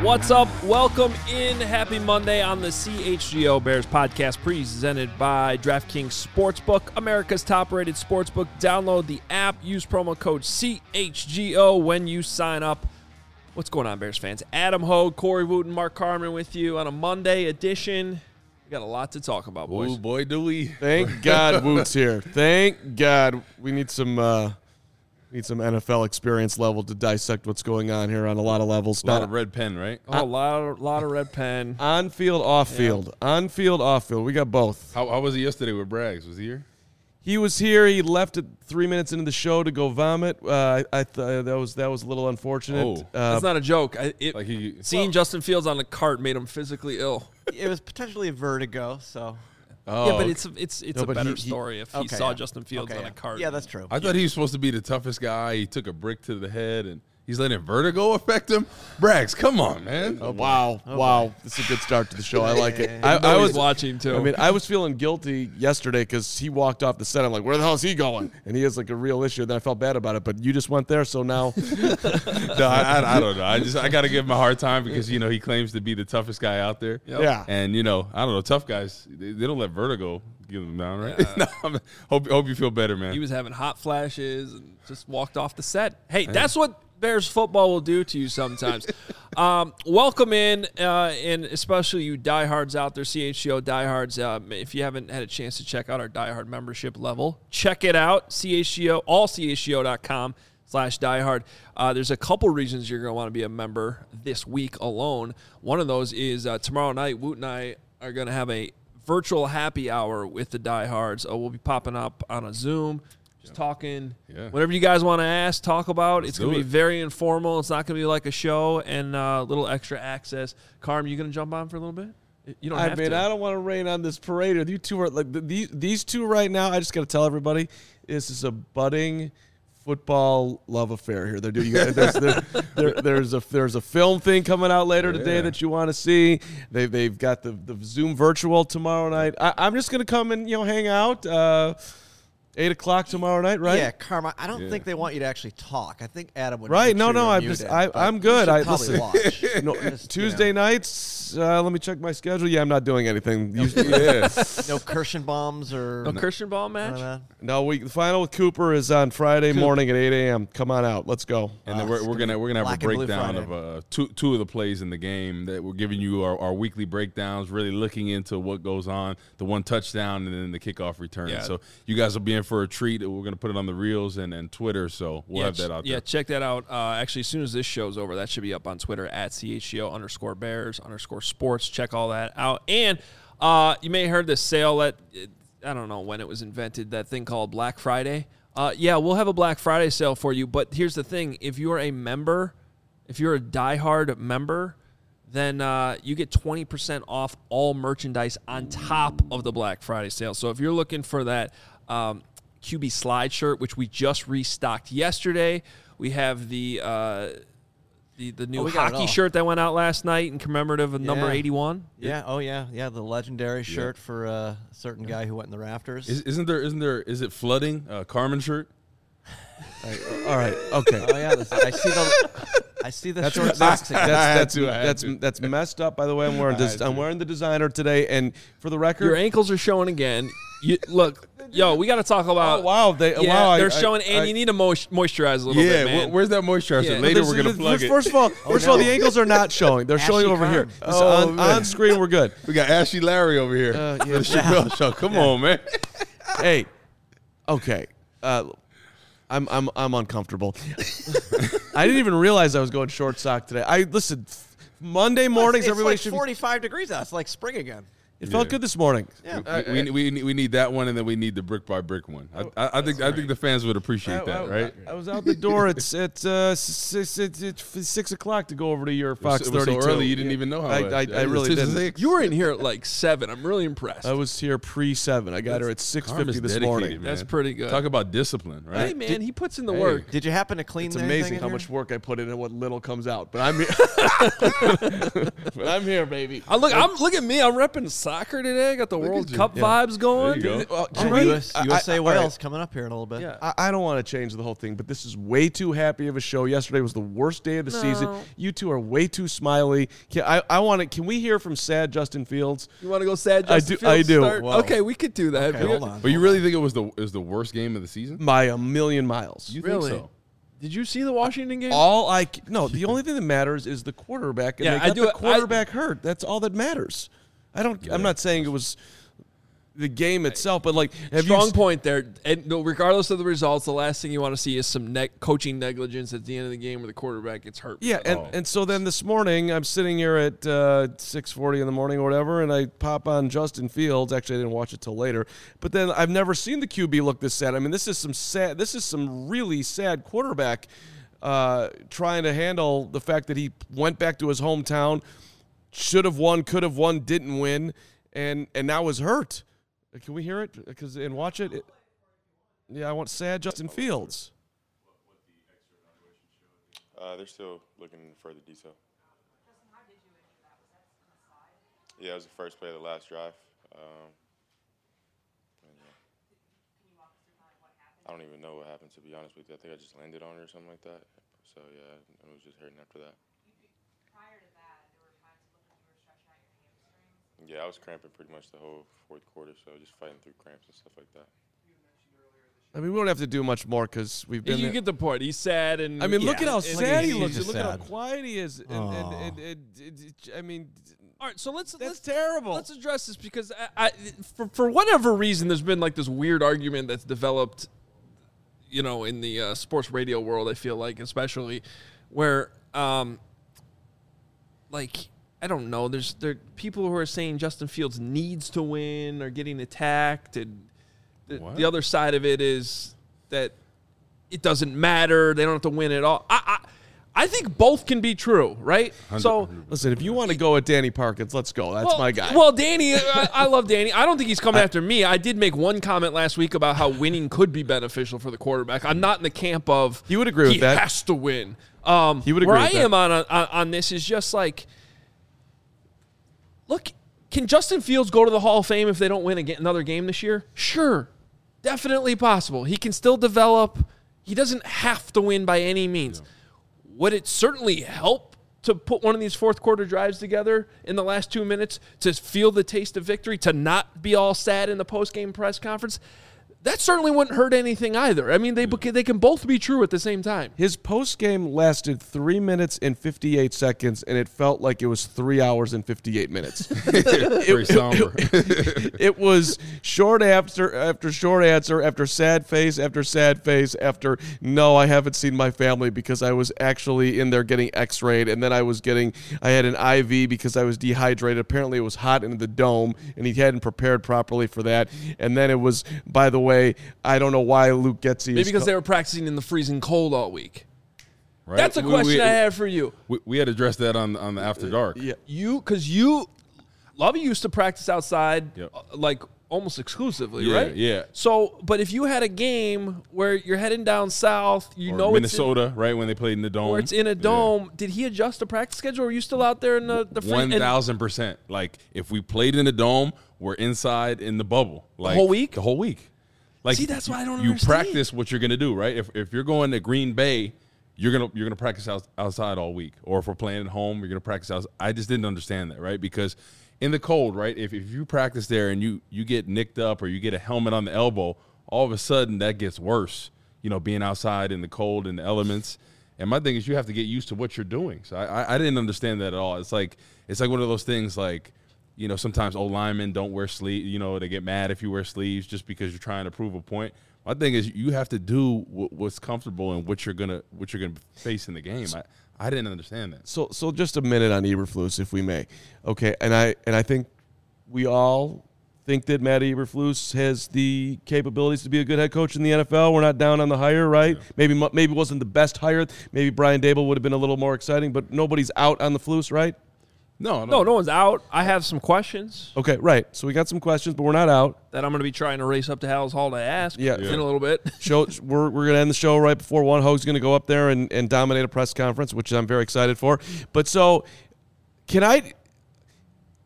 What's up? Welcome in. Happy Monday on the CHGO Bears podcast presented by DraftKings Sportsbook, America's top-rated sportsbook. Download the app. Use promo code CHGO when you sign up. What's going on, Bears fans? Adam Hogue, Corey Wooten, Mark Carmen with you on a Monday edition. We got a lot to talk about, boys. Oh, boy, do we. Thank God Woot's here. Thank God. We need some NFL experience level to dissect what's going on here on a lot of levels. A lot of red pen, right? Oh, a lot of red pen. On field, off field. Yeah. On field, off field. We got both. How was he yesterday with Braggs? Was he here? He was here. He left at 3 minutes into the show to go vomit. I thought that was a little unfortunate. Oh. That's not a joke. Seeing Justin Fields on the cart made him physically ill. It was potentially a vertigo, so. Oh, yeah, but it's a better story if he saw Justin Fields on a cart. Yeah, that's true. I thought he was supposed to be the toughest guy. He took a brick to the head, and he's letting vertigo affect him. Braggs, come on, man. Wow. This is a good start to the show. I like it. I was watching, too. I mean, I was feeling guilty yesterday because he walked off the set. I'm like, where the hell is he going? And he has, like, a real issue. Then I felt bad about it. But you just went there, so now. No, I don't know. I got to give him a hard time because, he claims to be the toughest guy out there. Yep. Yeah. And, I don't know, tough guys, they don't let vertigo give them down, right? No, hope you feel better, man. He was having hot flashes and just walked off the set. Hey, that's what Bears football will do to you sometimes. Welcome in, and especially you diehards out there, CHGO diehards. If you haven't had a chance to check out our diehard membership level, check it out, allchgo.com/diehard. There's a couple reasons you're going to want to be a member this week alone. One of those is tomorrow night, Woot and I are going to have a virtual happy hour with the diehards. We'll be popping up on a Zoom, just talking. Yeah. Whatever you guys want to ask, talk about. It's going to be very informal. It's not going to be like a show, and a little extra access. Carm, you going to jump on for a little bit? You don't have to. I don't want to rain on this parade. You two are like these two right now. I just got to tell everybody, this is a budding football love affair here. They're doing there's a film thing coming out later today that you want to see. They've got the Zoom virtual tomorrow night. I'm just gonna come and hang out. 8 o'clock tomorrow night, right? Yeah, Karma. I don't think they want you to actually talk. I think Adam would. Right? No. I'm good. Probably watch. Tuesday nights. Let me check my schedule. Yeah, I'm not doing anything. No Kirschenbaums or no Kirschenbaum match. No, the final with Cooper is on Friday morning at 8 a.m. Come on out. Let's go. And then we're gonna have a breakdown of two of the plays in the game that we're giving you our weekly breakdowns, really looking into what goes on, the one touchdown and then the kickoff return. Yeah. So you guys will be in for a treat. We're going to put it on the Reels and Twitter, so we'll have that out there. Yeah, check that out. Actually, as soon as this show's over, that should be up on Twitter at CHGO_Bears_sports. Check all that out. And you may have heard this sale that, I don't know when it was invented, that thing called Black Friday. Yeah, we'll have a Black Friday sale for you, but here's the thing. If you're a member, if you're a diehard member, then you get 20% off all merchandise on top of the Black Friday sale. So if you're looking for that QB slide shirt, which we just restocked yesterday. We have the new hockey shirt that went out last night in commemorative of number 81. Yeah. Oh yeah. The legendary shirt for a certain guy who went in the rafters. Is it flooding Carmen shirt? All right. Okay. Oh yeah. I see the short socks. That's messed up. By the way, I'm wearing the designer today, and for the record, your ankles are showing again. Look, we got to talk about. Oh wow, they're showing, and you need to moisturize a little bit, man. Where's that moisturizer? Yeah. Later, we're gonna plug it. First of all, the ankles are not showing. They're showing over here. On screen, we're good. We got Ashley Larry over here. The Chappelle Show. Come on, man. Hey, okay. I'm uncomfortable. I didn't even realize I was going short sock today. Listen, Monday mornings, everybody should 45 degrees out. It's like spring again. It felt good this morning. Yeah. We need that one, and then we need the brick by brick one. I think the fans would appreciate that, right? I was out the door at 6 o'clock to go over to your Fox 32. So early, you didn't even know how. I really didn't. You were in here at like 7. I'm really impressed. I was here pre-7. I got her at 6:50 this morning. Man. That's pretty good. Talk about discipline, right? Hey man, he puts in the work. Did you happen to clean? It's amazing how much work I put in and what little comes out. But I'm here. But I'm here, baby. Look at me. I'm repping soccer today. I got the Look World at Cup you. vibes going. There you go. USA Wales coming up here in a little bit. Yeah. I don't want to change the whole thing, but this is way too happy of a show. Yesterday was the worst day of the season. You two are way too smiley. Can we hear from sad Justin Fields? You want to go sad Justin Fields? I do. Start? Okay, we could do that. Okay, hold on. But you really think it was the worst game of the season? By a million miles. You Really? think so? Did you see the Washington game? The only thing that matters is the quarterback, and Yeah, they got the quarterback hurt. That's all that matters. I'm not saying it was the game itself, but like Strong point there. And regardless of the results, the last thing you want to see is some coaching negligence at the end of the game where the quarterback gets hurt. Yeah, and so then this morning I'm sitting here at 6:40 in the morning or whatever, and I pop on Justin Fields. Actually, I didn't watch it till later. But then I've never seen the QB look this sad. I mean, this is some really sad quarterback trying to handle the fact that he went back to his hometown, should have won, could have won, didn't win, and now is hurt. Can we hear it? And watch it. Yeah, I want sad Justin Fields. They're still looking into further detail. Yeah, it was the first play of the last drive. I don't even know what happened, to be honest with you. I think I just landed on it or something like that. So, yeah, I was just hurting after that. Prior to that, there were times when you were stretching out your hamstrings. Yeah, I was cramping pretty much the whole fourth quarter, so just fighting through cramps and stuff like that. I mean, we don't have to do much more because we've been. You get the point. He's sad, and I mean, look at how sad he he's looks. just Look at how sad. quiet he is. I mean, all right. So let's terrible. Let's address this because for whatever reason, there's been like this weird argument that's developed, in the sports radio world. I feel like, especially where, I don't know. There are people who are saying Justin Fields needs to win or getting attacked, and the other side of it is that it doesn't matter. They don't have to win at all. I think both can be true, right? 100%. So listen, if you want to go at Danny Parkins, let's go. That's my guy. Well, Danny, I love Danny. I don't think he's coming after me. I did make one comment last week about how winning could be beneficial for the quarterback. I'm not in the camp of he would agree with that. He has to win. He would agree where with that. I am on this is just like, look, can Justin Fields go to the Hall of Fame if they don't win another game this year? Sure. Definitely possible. He can still develop. He doesn't have to win by any means. Yeah. Would it certainly help to put one of these fourth quarter drives together in the last 2 minutes to feel the taste of victory, to not be all sad in the post-game press conference? That certainly wouldn't hurt anything either. I mean, they can both be true at the same time. His post-game lasted 3 minutes and 58 seconds, and it felt like it was 3 hours and 58 minutes. Very somber. It was short after short answer, after sad face, after no, I haven't seen my family because I was actually in there getting x-rayed, and then I had an IV because I was dehydrated. Apparently it was hot in the dome, and he hadn't prepared properly for that. And then it was, by the way, I don't know why Luke Getsy Maybe because they were practicing in the freezing cold all week. Right? That's a question I have for you. We had addressed that on the After Dark. Yeah. Lovey used to practice outside, Yep. like almost exclusively, Yeah, right? yeah. So, but if you had a game where you're heading down south, Or Minnesota, right, when they played in the dome. where it's in a dome, did he adjust the practice schedule, or were you still out there in the 1,000%. Like, if we played in the dome, we're inside in the bubble. Like, whole week? The whole week. Like, See, that's why I don't you understand. practice what you're gonna do, right? If you're going to Green Bay, you're gonna practice outside all week. Or if we're playing at home, you're gonna practice outside. I just didn't understand that, right? Because in the cold, right? If you practice there and you get nicked up or you get a helmet on the elbow, all of a sudden that gets worse. Being outside in the cold and the elements. And my thing is, you have to get used to what you're doing. So I didn't understand that at all. It's like one of those things like, sometimes old linemen don't wear sleeves. They get mad if you wear sleeves just because you're trying to prove a point. My thing is, you have to do what's comfortable and what you're gonna face in the game. I didn't understand that. So just a minute on Eberflus, if we may. Okay, and I think we all think that Matt Eberflus has the capabilities to be a good head coach in the NFL. We're not down on the hire, right? Yeah. Maybe wasn't the best hire. Maybe Brian Dable would have been a little more exciting, but nobody's out on the Flus, right? No one's out. I have some questions. Okay, right. So we got some questions, but we're not out. That I'm going to be trying to race up to Hal's Hall to ask in Yeah. a little bit. We're going to end the show right before one. Hoag's going to go up there and dominate a press conference, which I'm very excited for. But so,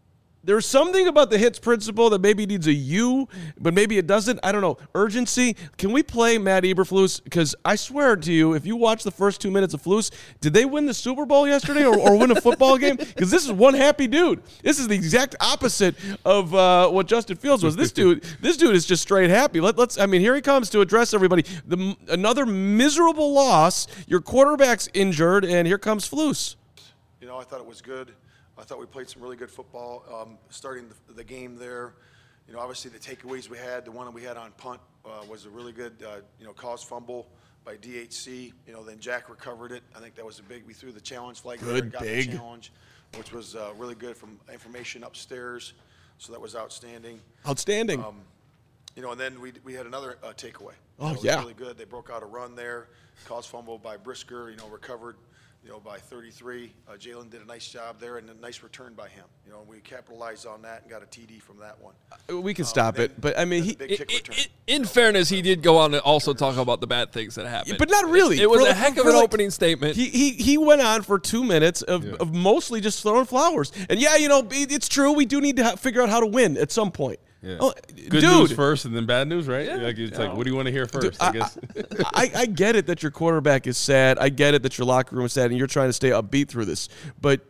There's something about the hits principle that maybe needs a U, but maybe it doesn't. I don't know. Urgency. Can we play Matt Eberflus? Because I swear to you, if you watch the first 2 minutes of Flus, did they win the Super Bowl yesterday or win a football game? Because this is one happy dude. This is the exact opposite of what Justin Fields was. This dude is just straight happy. Let's. I mean, here he comes to address everybody. Another miserable loss. Your quarterback's injured, and here comes Flus. I thought it was good. I thought we played some really good football starting the game there. Obviously the takeaways we had, the one that we had on punt was a really good, caused fumble by DHC. Then Jack recovered it. I think that was we threw the challenge flag there and got the challenge, which was really good from information upstairs. So that was outstanding. Outstanding. And then we had another takeaway. Oh, it was really good. They broke out a run there, caused fumble by Brisker, recovered. By 33. Jalen did a nice job there and a nice return by him. We capitalized on that and got a TD from that one. We can stop it, but I mean, in fairness, he did go on to also talk about the bad things that happened. But not really. It was a heck of an opening statement. He went on for 2 minutes of mostly just throwing flowers. And it's true. We do need to figure out how to win at some point. Yeah. Oh, good news first and then bad news, right? Yeah. Like, what do you want to hear first? Dude, I guess. I get it that your quarterback is sad. I get it that your locker room is sad and you're trying to stay upbeat through this. But,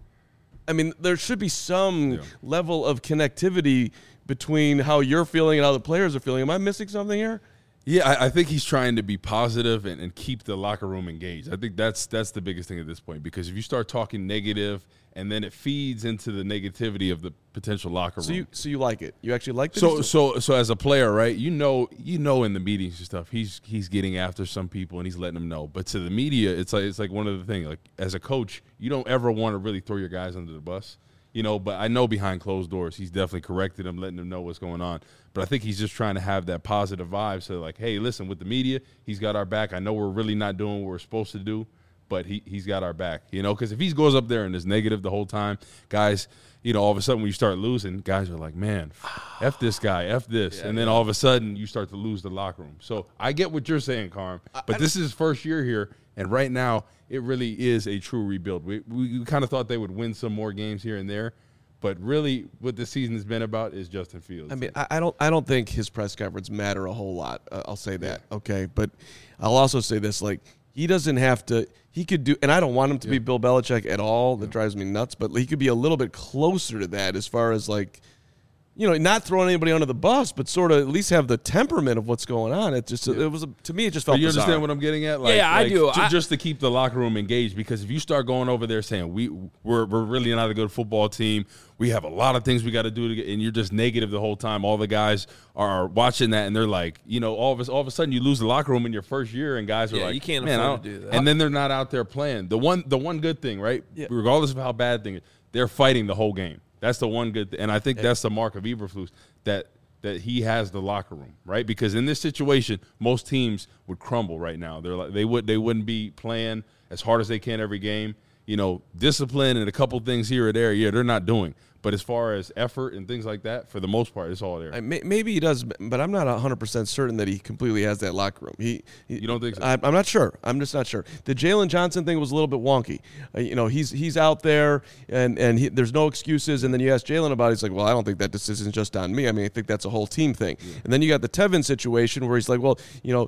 I mean, there should be some level of connectivity between how you're feeling and how the players are feeling. Am I missing something here? Yeah, I think he's trying to be positive and keep the locker room engaged. I think that's the biggest thing at this point, because if you start talking negative and then it feeds into the negativity of the potential locker room. So you like it? You actually like it? So as a player, right? You know in the meetings and stuff, he's getting after some people and he's letting them know. But to the media, it's like one of the things. Like as a coach, you don't ever want to really throw your guys under the bus. But I know behind closed doors, he's definitely corrected them, letting them know what's going on. But I think he's just trying to have that positive vibe. So, like, hey, listen, with the media, he's got our back. I know we're really not doing what we're supposed to do, but he's got our back, because if he goes up there and is negative the whole time, guys, all of a sudden when you start losing, guys are like, man, F this guy, F this. And then all of a sudden you start to lose the locker room. So I get what you're saying, Carm, but this is his first year here, and right now it really is a true rebuild. We kind of thought they would win some more games here and there, but really what the season has been about is Justin Fields. I mean, I don't think his press conference matter a whole lot. I'll say that, okay? But I'll also say this, like, he doesn't have to – he could do – and I don't want him to be Bill Belichick at all. That drives me nuts. But he could be a little bit closer to that as far as, like, not throwing anybody under the bus, but sort of at least have the temperament of what's going on. It just it was to me, it just felt bizarre. You understand what I'm getting at? I do. Just to keep the locker room engaged, because if you start going over there saying we're really not a good football team, we have a lot of things we got to do, and you're just negative the whole time. All the guys are watching that, and they're like, all of a sudden you lose the locker room in your first year, and guys are like, you can't afford to do that. And then they're not out there playing. The one good thing, right? Yeah. Regardless of how bad thing, they're fighting the whole game. That's the one good thing. And I think that's the mark of Eberflus, that he has the locker room, right? Because in this situation, most teams would crumble right now. They're like they wouldn't be playing as hard as they can every game. Discipline and a couple things here or there, they're not doing. But as far as effort and things like that, for the most part, it's all there. Maybe he does, but I'm not 100% certain that he completely has that locker room. You don't think so? I'm not sure. I'm just not sure. The Jalen Johnson thing was a little bit wonky. He's out there, and there's no excuses. And then you ask Jalen about it, he's like, well, I don't think that decision's just on me. I mean, I think that's a whole team thing. Yeah. And then you got the Tevin situation where he's like, well,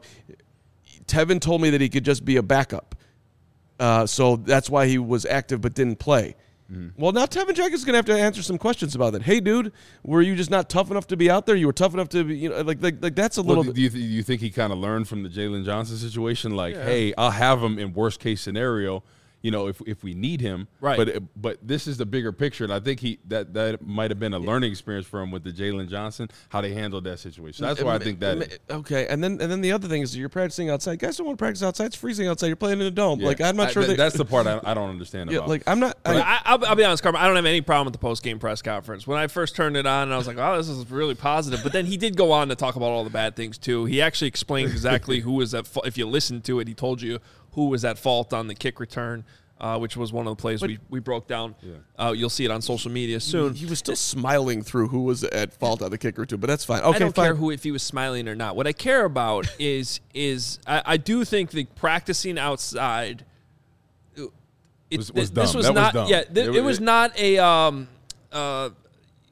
Tevin told me that he could just be a backup. So that's why he was active but didn't play. Mm-hmm. Well, now Tevin Jenkins is going to have to answer some questions about that. Hey, dude, were you just not tough enough to be out there? You were tough enough to be, like that's a little bit. Do you think he kind of learned from the Jalen Johnson situation? Like, hey, I'll have him in worst case scenario, if we need him. Right. But this is the bigger picture, and I think that might have been a learning experience for him with the Jalen Johnson, how they handled that situation. That's why I think that. Okay, and then the other thing is you're practicing outside. Guys don't want to practice outside. It's freezing outside. You're playing in a dome. Yeah. Like I'm not sure. That's the part I don't understand about. Like I'm not. I'll be honest, Carmen. I don't have any problem with the post game press conference. When I first turned it on, I was like, "Oh, this is really positive." But then he did go on to talk about all the bad things too. He actually explained exactly who was at fault. If you listened to it, he told you who was at fault on the kick return. Which was one of the plays we broke down. Yeah. You'll see it on social media soon. He was still smiling through who was at fault on the kick return, but that's fine. Okay, I don't care if he was smiling or not. What I care about is I do think the practicing outside. Was dumb. This was that not. Was dumb. Yeah, it was not a.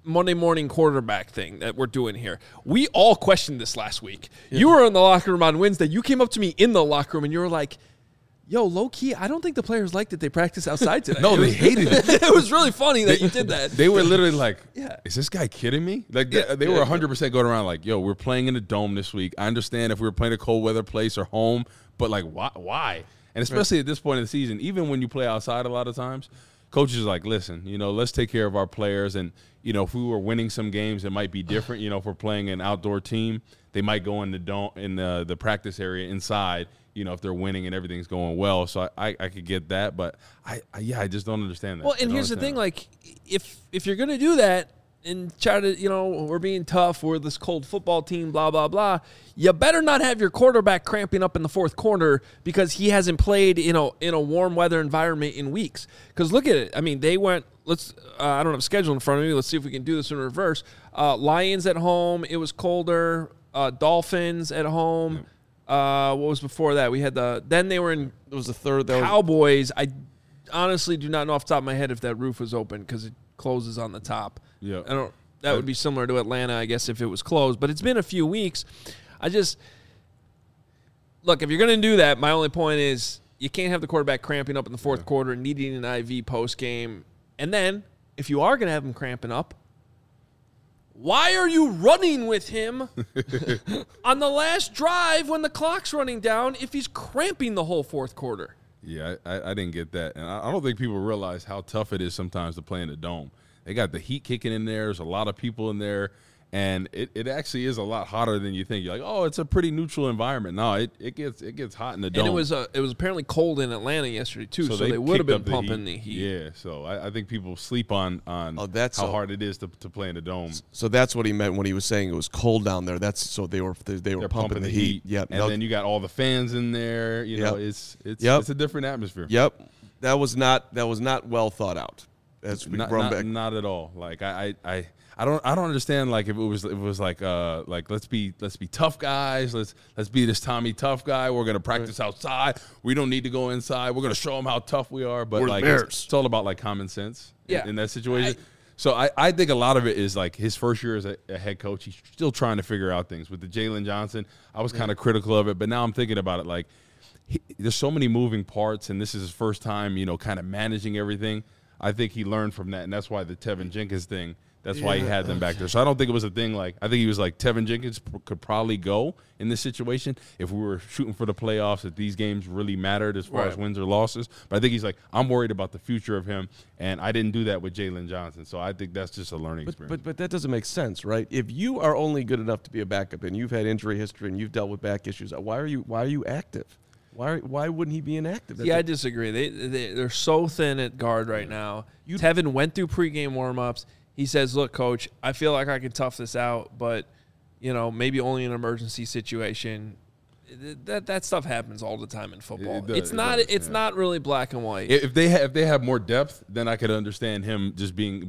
Monday morning quarterback thing that we're doing here. We all questioned this last week. Yeah. You were in the locker room on Wednesday. You came up to me in the locker room and you were like, yo, low key, I don't think the players liked that they practiced outside today. No, they hated it. It was really funny that you did that. They were literally like, is this guy kidding me? Like they were 100% going around like, yo, we're playing in a dome this week. I understand if we were playing a cold weather place or home, but like why? And especially at this point in the season, even when you play outside a lot of times, coaches are like, listen, let's take care of our players. And, if we were winning some games, it might be different. If we're playing an outdoor team, they might go in the practice area inside, if they're winning and everything's going well. So I could get that. But, I just don't understand that. Well, and here's the thing. Like, if you're going to do that and try to, we're being tough, we're this cold football team, blah, blah, blah, you better not have your quarterback cramping up in the fourth quarter because he hasn't played in a warm weather environment in weeks. Because look at it. I mean, they went, I don't have a schedule in front of me. Let's see if we can do this in reverse. Lions at home. It was colder. Dolphins at home. What was before that? We had then they were in. It was the third. Cowboys. I honestly do not know off the top of my head if that roof was open because it closes on the top. Yeah. That would be similar to Atlanta, I guess, if it was closed. But it's been a few weeks. Look, if you're going to do that, my only point is you can't have the quarterback cramping up in the fourth quarter, needing an IV post game. And then, if you are going to have him cramping up, why are you running with him on the last drive when the clock's running down if he's cramping the whole fourth quarter? Yeah, I didn't get that. And I don't think people realize how tough it is sometimes to play in a dome. They got the heat kicking in there. There's a lot of people in there. And it actually is a lot hotter than you think. You're like, oh, it's a pretty neutral environment. No, it gets hot in the dome. And it was apparently cold in Atlanta yesterday too, so they would have been pumping the heat. Yeah, so I think people sleep on how hard it is to play in the dome. So that's what he meant when he was saying it was cold down there. That's so they were pumping the heat. Yep. And then you got all the fans in there. It's a different atmosphere. Yep. That was not well thought out. Not at all. Like I don't understand like if it was like let's be tough guys, let's be this Tommy tough guy. We're gonna practice outside. We don't need to go inside. We're gonna show them how tough we are. But like it's all about like common sense in that situation. So I think a lot of it is like his first year as a head coach. He's still trying to figure out things. With the Jalen Johnson, I was kind of critical of it, but now I'm thinking about it like there's so many moving parts, and this is his first time, kind of managing everything. I think he learned from that, and that's why the Tevin Jenkins thing. That's why he had them back there. So I don't think it was a thing like – I think he was like Tevin Jenkins could probably go in this situation if we were shooting for the playoffs, if these games really mattered as far as wins or losses. But I think he's like, I'm worried about the future of him, and I didn't do that with Jalen Johnson. So I think that's just a learning experience. But that doesn't make sense, right? If you are only good enough to be a backup and you've had injury history and you've dealt with back issues, why are you active? Why wouldn't he be inactive? Yeah, I disagree. They're so thin at guard right now. Tevin went through pregame warm-ups. He says, look, Coach, I feel like I can tough this out, but, maybe only in an emergency situation. That stuff happens all the time in football. It's not really black and white. If they have more depth, then I could understand him just being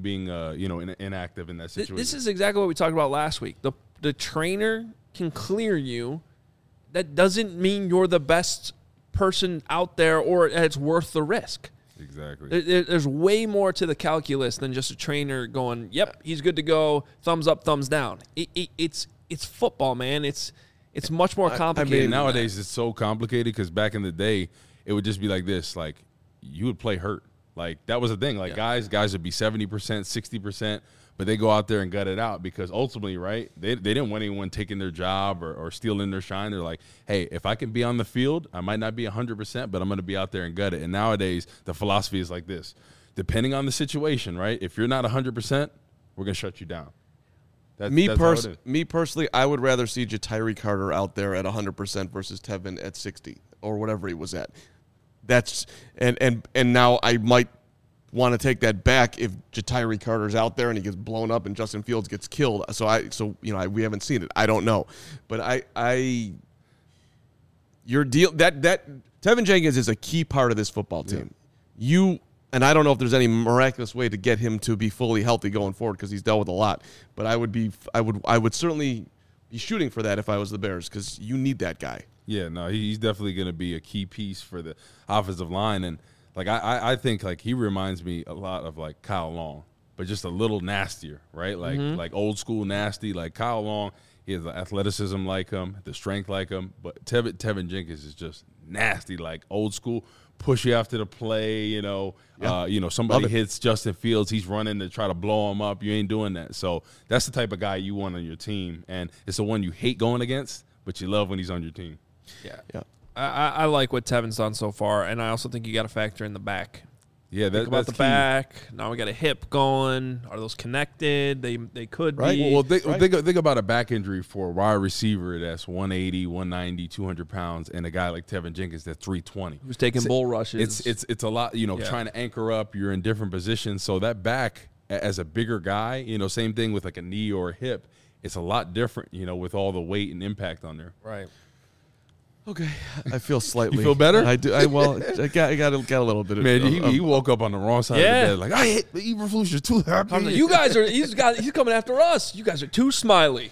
inactive in that situation. This is exactly what we talked about last week. The trainer can clear you. That doesn't mean you're the best person out there or it's worth the risk. Exactly. There's way more to the calculus than just a trainer going, yep, he's good to go, thumbs up, thumbs down. It's football, man. It's much more complicated. I mean, nowadays it's so complicated because back in the day, it would just be like this. Like, you would play hurt. Like, that was the thing. Like, guys would be 70%, 60%, but they go out there and gut it out because ultimately, right, they didn't want anyone taking their job or stealing their shine. They're like, hey, if I can be on the field, I might not be 100%, but I'm going to be out there and gut it. And nowadays, the philosophy is like this. Depending on the situation, right, if you're not 100%, we're going to shut you down. Me personally, I would rather see Ja'Tyre Carter out there at 100% versus Tevin at 60 or whatever he was at. That's and now I might want to take that back if Ja'Tyre Carter's out there and he gets blown up and Justin Fields gets killed. We haven't seen it. I don't know, but your deal that Tevin Jenkins is a key part of this football team. Yeah. And I don't know if there's any miraculous way to get him to be fully healthy going forward because he's dealt with a lot. But I would certainly be shooting for that if I was the Bears because you need that guy. Yeah, no, he's definitely going to be a key piece for the offensive line. And, like, I think, like, he reminds me a lot of, like, Kyle Long. but just a little nastier, right? Like old school nasty. Like Kyle Long, he has the athleticism like him, the strength like him, but Tevin Jenkins is just nasty, like old school. Push you after the play, somebody hits Justin Fields, he's running to try to blow him up. You ain't doing that. So that's the type of guy you want on your team, and it's the one you hate going against, but you love when he's on your team. Yeah. I like what Tevin's done so far, and I also think you got to factor in the back. Yeah, think about the key. Back. Now we got a hip going. Are those connected? They could be. Well, think about a back injury for a wide receiver that's 180, 190, 200 pounds, and a guy like Tevin Jenkins that's 320. Who's taking bull rushes. It's a lot, trying to anchor up. You're in different positions. So that back, as a bigger guy, same thing with like a knee or a hip, it's a lot different, with all the weight and impact on there. Right. Okay, I feel slightly. You feel better? I do. I got a little bit of. Man, he woke up on the wrong side of the bed. Like, I hit the Eberflus. You're too happy. Like, you guys are. He's coming after us. You guys are too smiley.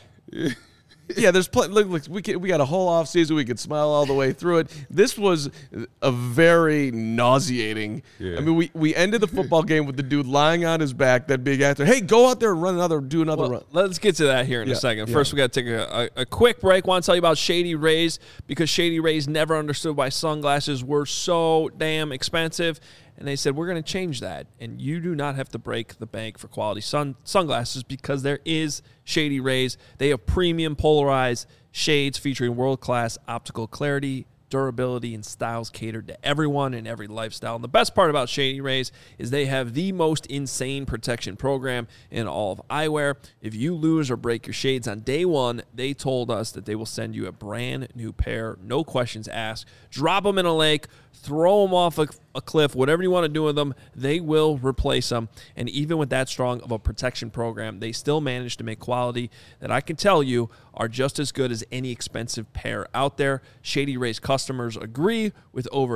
Yeah, there's look, we got a whole off season. We could smile all the way through it. This was a very nauseating. Yeah. I mean, we ended the football game with the dude lying on his back. That big actor. Hey, go out there and do another run. Let's get to that here in a second. First, we got to take a quick break. Want to tell you about Shady Rays, because Shady Rays never understood why sunglasses were so damn expensive. And they said, we're going to change that. And you do not have to break the bank for quality sunglasses, because there is Shady Rays. They have premium polarized shades featuring world-class optical clarity, durability, and styles catered to everyone and every lifestyle. And the best part about Shady Rays is they have the most insane protection program in all of eyewear. If you lose or break your shades on day one, they told us that they will send you a brand new pair, no questions asked. Drop them in a lake, throw them off a cliff, whatever you want to do with them, they will replace them. And even with that strong of a protection program, they still manage to make quality that I can tell you are just as good as any expensive pair out there. Shady Rays customers agree, with over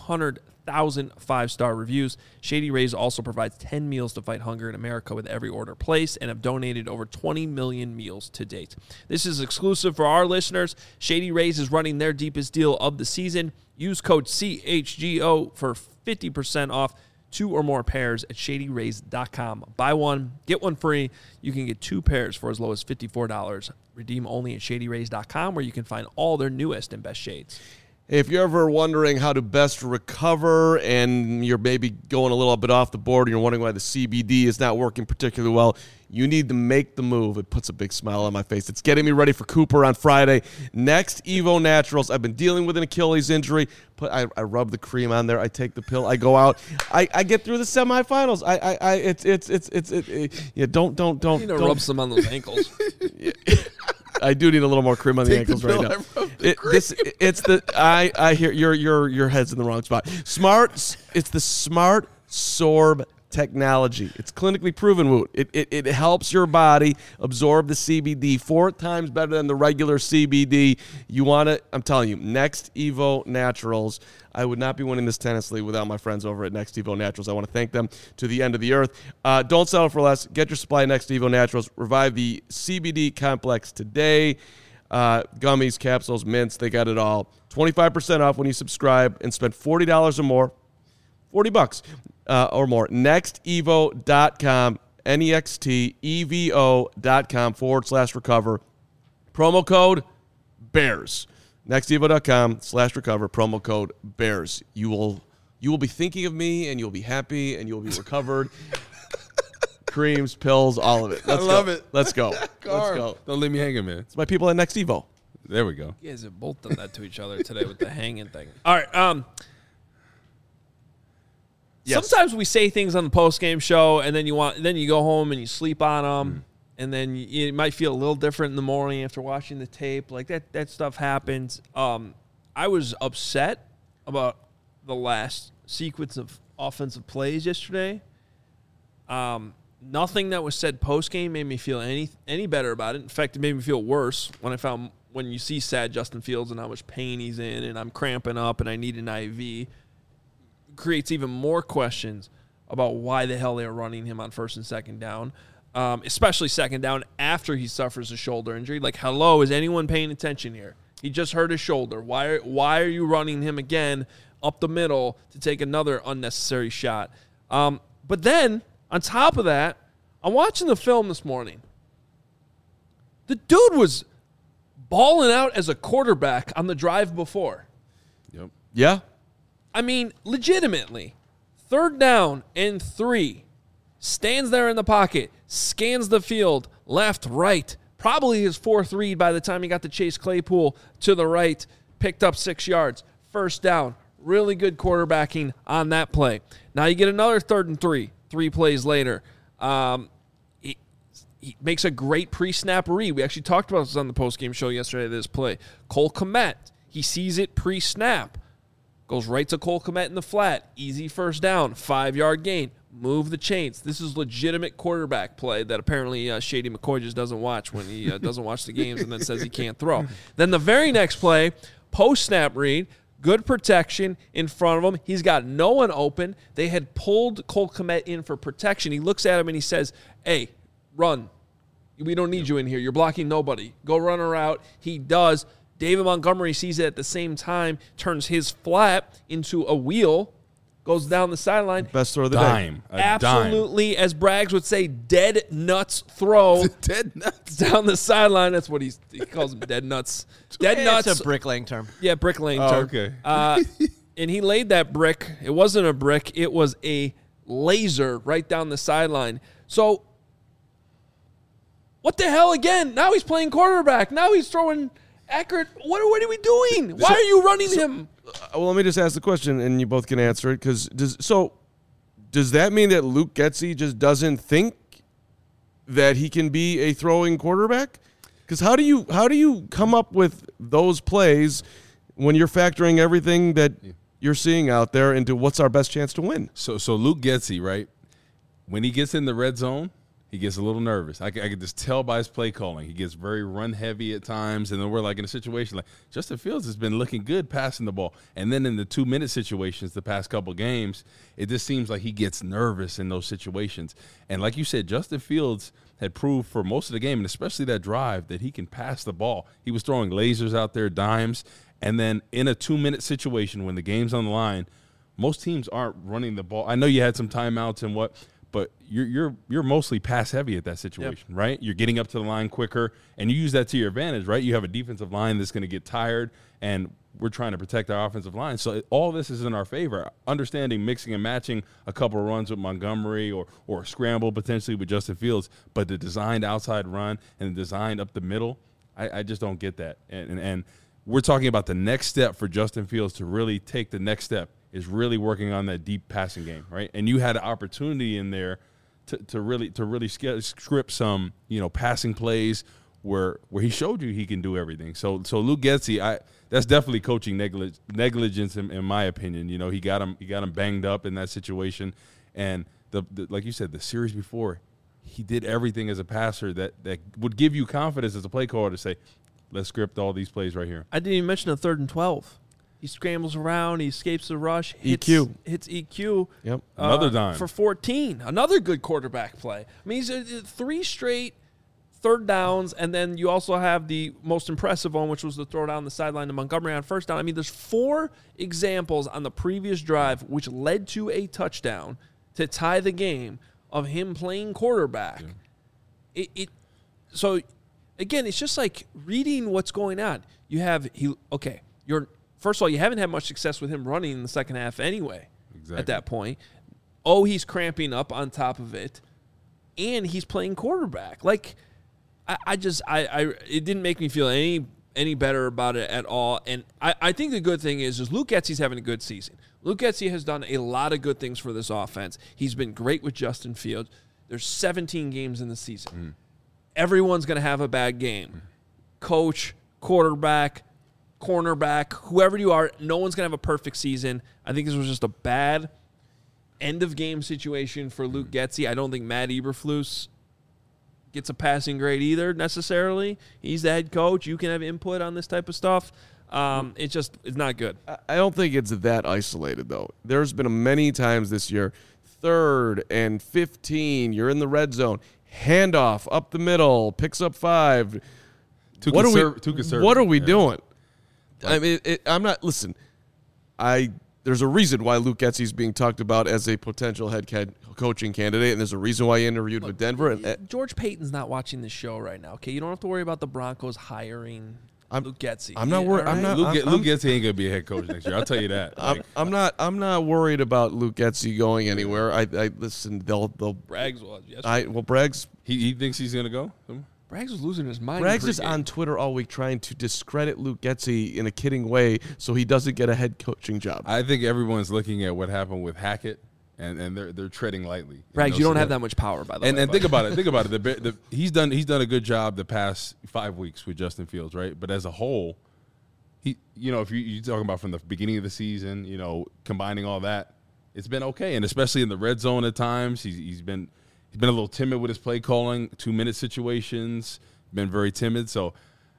200,000 five-star reviews. Shady Rays also provides 10 meals to fight hunger in America with every order placed, and have donated over 20 million meals to date. This is exclusive for our listeners. Shady Rays is running their deepest deal of the season. Use code CHGO for 50% off 2 or more pairs at shadyrays.com. Buy one, get one free. You can get 2 pairs for as low as $54. Redeem only at shadyrays.com, where you can find all their newest and best shades. If you're ever wondering how to best recover and you're maybe going a little bit off the board and you're wondering why the CBD is not working particularly well, you need to make the move. It puts a big smile on my face. It's getting me ready for Cooper on Friday. Next Evo Naturals. I've been dealing with an Achilles injury. I rub the cream on there. I take the pill. I go out. I get through the semifinals. Don't. You know, rub some on those ankles. I do need a little more cream on the ankles right now. I hear your head's in the wrong spot. It's the Smart Sorb technology. It's clinically proven, Woot. It helps your body absorb the CBD 4 times better than the regular CBD. You want it? I'm telling you, Next Evo Naturals. I would not be winning this tennis league without my friends over at Next Evo Naturals. I want to thank them to the end of the earth. Don't settle for less. Get your supply of Next Evo Naturals. Revive the CBD complex today. Gummies, capsules, mints, they got it all. 25% off when you subscribe and spend $40 or more. $40 or more. NextEvo.com, NextEvo.com/recover. Promo code BEARS. NextEvo.com/recover. Promo code BEARS. You will be thinking of me, and you'll be happy, and you'll be recovered. Creams, pills, all of it. I love it. Let's go. Let's go. Don't leave me hanging, man. It's my people at Next Evo. There we go. You guys have both done that to each other today with the hanging thing. All right. Yes. Sometimes we say things on the post-game show, and then you go home and you sleep on them, and then you might feel a little different in the morning after watching the tape. Like that stuff happens. I was upset about the last sequence of offensive plays yesterday. Nothing that was said post-game made me feel any better about it. In fact, it made me feel worse when you see sad Justin Fields and how much pain he's in, and I'm cramping up and I need an IV. Creates even more questions about why the hell they're running him on first and second down, especially second down after he suffers a shoulder injury. Like, hello, is anyone paying attention here? He just hurt his shoulder. Why are you running him again up the middle to take another unnecessary shot? But then, on top of that, I'm watching the film this morning. The dude was balling out as a quarterback on the drive before. Yep. Yeah. I mean, legitimately, 3rd down and 3. Stands there in the pocket, scans the field, left, right. Probably his 4th read by the time he got to Chase Claypool to the right. Picked up 6 yards. 1st down. Really good quarterbacking on that play. Now you get another 3rd and 3. 3 plays later. He makes a great pre-snap read. We actually talked about this on the post-game show yesterday, this play. Cole Kmet, he sees it pre-snap. Goes right to Cole Kmet in the flat. Easy 1st down. 5-yard gain. Move the chains. This is legitimate quarterback play that apparently Shady McCoy just doesn't watch when he doesn't watch the games and then says he can't throw. Then the very next play, post-snap read, good protection in front of him. He's got no one open. They had pulled Cole Kmet in for protection. He looks at him and he says, hey, run. We don't need you in here. You're blocking nobody. Go run her out. He does. David Montgomery sees it at the same time, turns his flat into a wheel, goes down the sideline. Best throw of the Dime. day. Absolutely, as Braggs would say, dead nuts throw. Dead nuts. Down the sideline. That's what he calls them, dead nuts. Dead nuts. It's a bricklaying term. Yeah, bricklaying Oh, term. okay. And he laid that brick. It wasn't a brick. It was a laser right down the sideline. So, what the hell again? Now he's playing quarterback. Now he's throwing accurate. What are we doing? Why are you running him? Well, let me just ask the question, and you both can answer it. Does that mean that Luke Getsy just doesn't think that he can be a throwing quarterback? Because how do you come up with those plays when you're factoring everything that you're seeing out there into what's our best chance to win? So Luke Getsy, right? When he gets in the red zone, he gets a little nervous. I can just tell by his play calling. He gets very run heavy at times, and then we're like in a situation like Justin Fields has been looking good passing the ball. And then in the 2-minute situations the past couple games, it just seems like he gets nervous in those situations. And like you said, Justin Fields had proved for most of the game, and especially that drive, that he can pass the ball. He was throwing lasers out there, dimes, and then in a 2-minute situation when the game's on the line, most teams aren't running the ball. I know you had some timeouts and what, but you're mostly pass heavy at that situation, right? You're getting up to the line quicker, and you use that to your advantage, right? You have a defensive line that's going to get tired, and we're trying to protect our offensive line. So all this is in our favor. Understanding mixing and matching a couple of runs with Montgomery or a scramble potentially with Justin Fields, but the designed outside run and the designed up the middle, I just don't get that. And we're talking about the next step for Justin Fields to really take the next step is really working on that deep passing game, right? And you had an opportunity in there to really script some, passing plays where he showed you he can do everything. So Luke Getsy, that's definitely coaching negligence in my opinion. He got him banged up in that situation, and the like you said, the series before, he did everything as a passer that would give you confidence as a play caller to say, let's script all these plays right here. I didn't even mention a 3rd and 12. He scrambles around. He escapes the rush. Hits EQ. Yep. Another dime. For 14. Another good quarterback play. I mean, he's 3 straight 3rd downs, and then you also have the most impressive one, which was the throw down the sideline to Montgomery on 1st down. I mean, there's 4 examples on the previous drive which led to a touchdown to tie the game of him playing quarterback. Yeah. So, again, it's just like reading what's going on. First of all, you haven't had much success with him running in the second half anyway. Exactly. At that point. He's cramping up on top of it, and he's playing quarterback. Like, it didn't make me feel any better about it at all. And I think the good thing is Luke Getsy's having a good season. Luke Getsy has done a lot of good things for this offense. He's been great with Justin Fields. There's 17 games in the season. Everyone's going to have a bad game. Coach, quarterback, cornerback, whoever you are, no one's going to have a perfect season. I think this was just a bad end-of-game situation for Luke Getsy. I don't think Matt Eberflus gets a passing grade either necessarily. He's the head coach. You can have input on this type of stuff. It's not good. I don't think it's that isolated, though. There's been many times this year, 3rd and 15, you're in the red zone, handoff up the middle, picks up 5. What are we doing? I mean, I'm not. Listen, there's there's a reason why Luke Getsy is being talked about as a potential head coaching candidate, and there's a reason why he interviewed with Denver. And George Payton's not watching the show right now. Okay, you don't have to worry about the Broncos hiring Luke Getsy. I'm not worried. Right? Luke Getsy ain't gonna be a head coach next year. I'll tell you that. I'm not worried about Luke Getsy going anywhere. I listen. They'll Braggs was yesterday. Braggs. He thinks he's gonna go. Braggs was losing his mind. Braggs is on Twitter all week trying to discredit Luke Getsy in a kidding way so he doesn't get a head coaching job. I think everyone's looking at what happened with Hackett, and they're treading lightly. Braggs, you don't have that much power, by the way. And think about it. Think about it. He's done a good job the past 5 weeks with Justin Fields, right? But as a whole, if you're talking about from the beginning of the season, combining all that, it's been okay. And especially in the red zone at times, he's been a little timid with his play calling, 2-minute situations, been very timid. So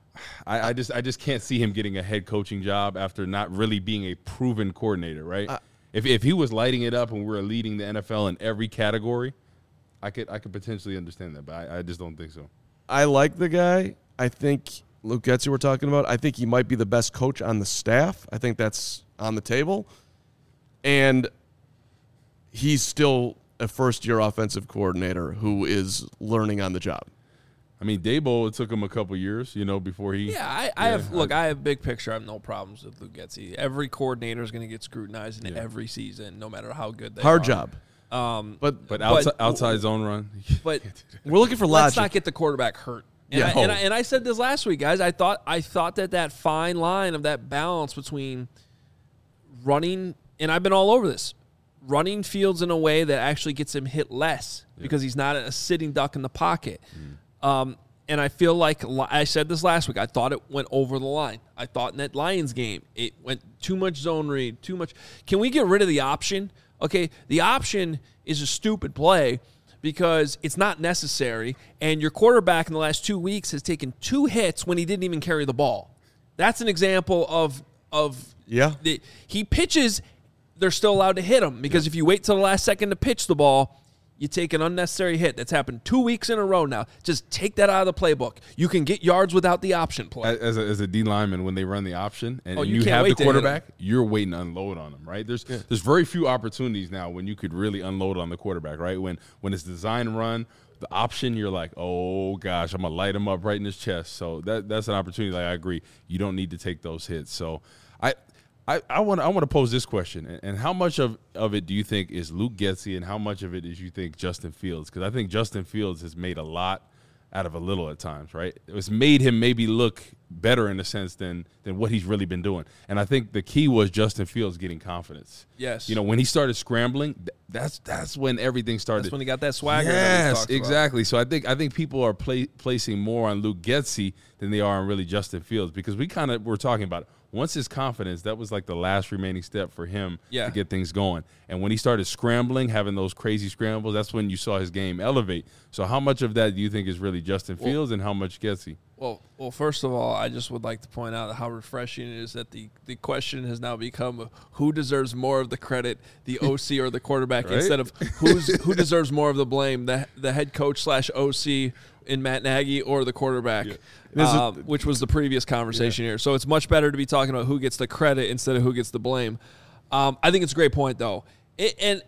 I just can't see him getting a head coaching job after not really being a proven coordinator, right? If he was lighting it up and we were leading the NFL in every category, I could potentially understand that, but I just don't think so. I like the guy. I think Luke Getsy we're talking about, I think he might be the best coach on the staff. I think that's on the table. And he's still a first-year offensive coordinator who is learning on the job. I mean, Daboll, it took him a couple years, before he. Yeah, I have big picture. I have no problems with Luke Getsy. Every coordinator is going to get scrutinized in every season, no matter how good they are. Hard job. But outside zone run. But we're looking for logic. Let's not get the quarterback hurt. And I said this last week, guys. I thought that fine line of that balance between running, and I've been all over this, running Fields in a way that actually gets him hit less because he's not a sitting duck in the pocket. And I feel like I said this last week. I thought it went over the line. I thought in that Lions game, it went too much zone read, too much. Can we get rid of the option? Okay, the option is a stupid play because it's not necessary, and your quarterback in the last 2 weeks has taken 2 hits when he didn't even carry the ball. That's an example of he pitches, they're still allowed to hit him because if you wait till the last second to pitch the ball, you take an unnecessary hit. That's happened 2 weeks in a row now. Just take that out of the playbook. You can get yards without the option play. As a D lineman, when they run the option and you have the quarterback, you're waiting to unload on them, right? There's very few opportunities now when you could really unload on the quarterback, right? When it's design run, the option, you're like, oh gosh, I'm gonna light him up right in his chest. So that's an opportunity. Like I agree, you don't need to take those hits. So I want to pose this question, and how much of it do you think is Luke Getsy, and how much of it is you think Justin Fields? Because I think Justin Fields has made a lot out of a little at times, right? It's made him maybe look better in a sense than what he's really been doing. And I think the key was Justin Fields getting confidence. Yes. When he started scrambling, that's when everything started. That's when he got that swagger. Yes, exactly. So I think people are placing more on Luke Getsy than they are on really Justin Fields, because we kind of were talking about it. Once his confidence, that was like the last remaining step for him to get things going. And when he started scrambling, having those crazy scrambles, that's when you saw his game elevate. So how much of that do you think is really Justin Fields and how much Getsy? Well, first of all, I just would like to point out how refreshing it is that the question has now become who deserves more of the credit, the OC or the quarterback, right? Instead of who deserves more of the blame, the head coach / OC in Matt Nagy or the quarterback, which was the previous conversation here. So it's much better to be talking about who gets the credit instead of who gets the blame. I think it's a great point, though. And